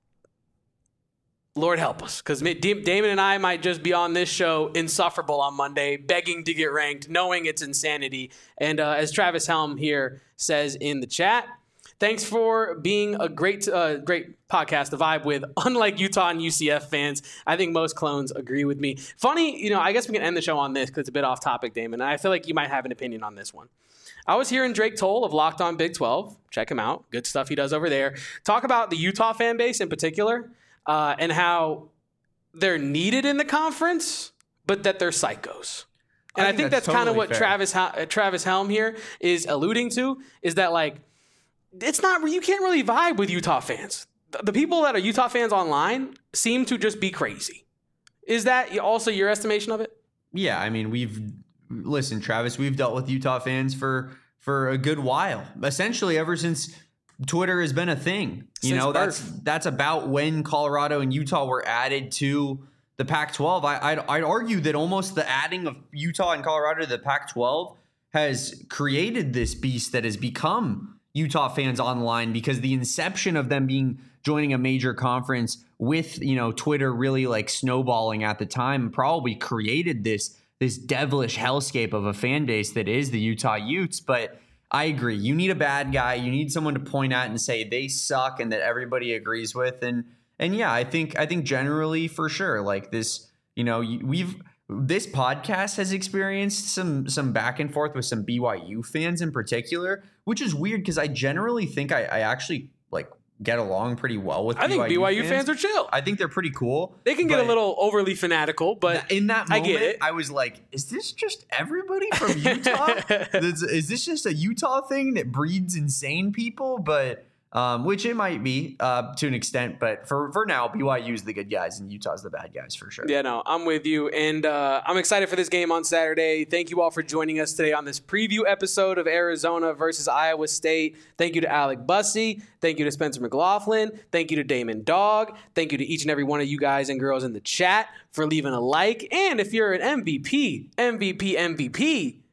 Lord help us. Because Damon and I might just be on this show insufferable on Monday, begging to get ranked, knowing it's insanity. And uh, as Travis Helm here says in the chat, thanks for being a great uh, great podcast to vibe with. Unlike Utah and U C F fans, I think most clones agree with me. Funny, you know, I guess we can end the show on this because it's a bit off topic, Damon. And I feel like you might have an opinion on this one. I was hearing Drake Toll of Locked On Big twelve. Check him out. Good stuff he does over there. Talk about the Utah fan base in particular uh, and how they're needed in the conference, but that they're psychos. And I think, I think that's, that's totally kind of what fair. Travis uh, Travis Helm here is alluding to, is that, like, it's not, you can't really vibe with Utah fans. The people that are Utah fans online seem to just be crazy. Is that also your estimation of it? Yeah, I mean, we've, listen, Travis, we've dealt with Utah fans for, for a good while. Essentially, ever since Twitter has been a thing. You since know, birth. that's that's about when Colorado and Utah were added to the Pac twelve. I, I'd, I'd argue that almost the adding of Utah and Colorado to the Pac twelve has created this beast that has become Utah fans online, because the inception of them being joining a major conference with, you know, Twitter really like snowballing at the time probably created this this devilish hellscape of a fan base that is the Utah Utes. But I agree. You need a bad guy. You need someone to point at and say they suck and that everybody agrees with. And and yeah, I think I think generally for sure, like this, you know, we've this podcast has experienced some some back and forth with some B Y U fans in particular, which is weird because I generally think I, I actually like get along pretty well with I B Y U think B Y U fans. fans are chill. I think they're pretty cool. They can get a little overly fanatical, but in that moment, I get it. I was like, is this just everybody from Utah? is, is this just a Utah thing that breeds insane people? But Um, which it might be uh, to an extent, but for, for now, B Y U's the good guys and Utah's the bad guys for sure. Yeah, no, I'm with you, and uh, I'm excited for this game on Saturday. Thank you all for joining us today on this preview episode of Arizona versus Iowa State. Thank you to Alec Bussey. Thank you to Spencer McLaughlin. Thank you to Damon Dog. Thank you to each and every one of you guys and girls in the chat for leaving a like. And if you're an M V P, M V P, M V P,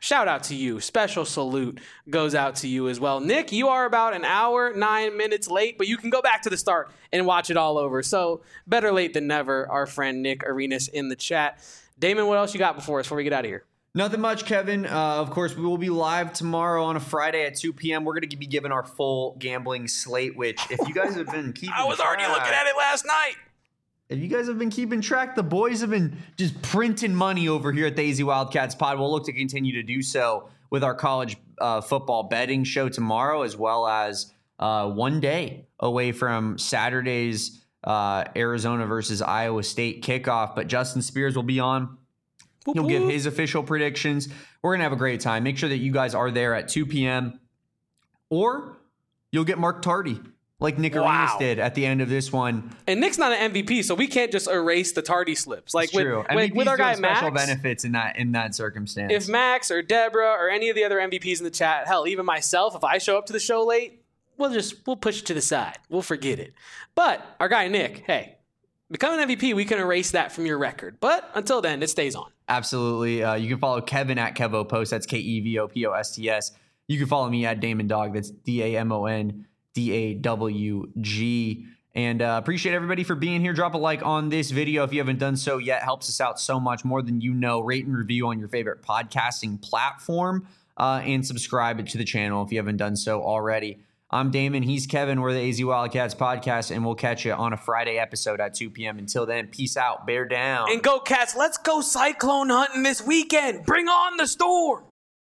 shout out to you. Special salute goes out to you as well. Nick, you are about an hour, nine minutes late, but you can go back to the start and watch it all over. So better late than never, our friend Nick Arenas in the chat. Damon, what else you got before us before we get out of here? Nothing much, Kevin. Uh, of course, we will be live tomorrow on a Friday at two p.m. We're going to be giving our full gambling slate, which if you guys have been keeping I was track, already looking at it last night. If you guys have been keeping track, the boys have been just printing money over here at the A Z Wildcats pod. We'll look to continue to do so with our college uh, football betting show tomorrow, as well as uh, one day away from Saturday's uh, Arizona versus Iowa State kickoff. But Justin Spears will be on. He'll give his official predictions. We're going to have a great time. Make sure that you guys are there at two p.m. Or you'll get Mark Tardy, like Nick Wow. Arenas did at the end of this one. And Nick's not an M V P, so we can't just erase the tardy slips. Like It's with, true. with, M V Ps with our do guy have special Max. benefits in that in that circumstance. If Max or Deborah or any of the other M V Ps in the chat, hell, even myself, if I show up to the show late, we'll just we'll push it to the side. We'll forget it. But our guy Nick, hey, become an M V P, we can erase that from your record. But until then, it stays on. Absolutely. Uh, you can follow Kevin at Kevo Post. That's K E V O P O S T S. You can follow me at Damon Dog. That's D A M O N D A W G. And uh, appreciate everybody for being here. Drop a like on this video if you haven't done so yet. Helps us out so much more than you know. Rate and review on your favorite podcasting platform. Uh, and subscribe to the channel if you haven't done so already. I'm Damon. He's Kevin. We're the A Z Wildcats podcast, and we'll catch you on a Friday episode at two p.m. Until then, peace out. Bear down. And go Cats, let's go cyclone hunting this weekend. Bring on the storm.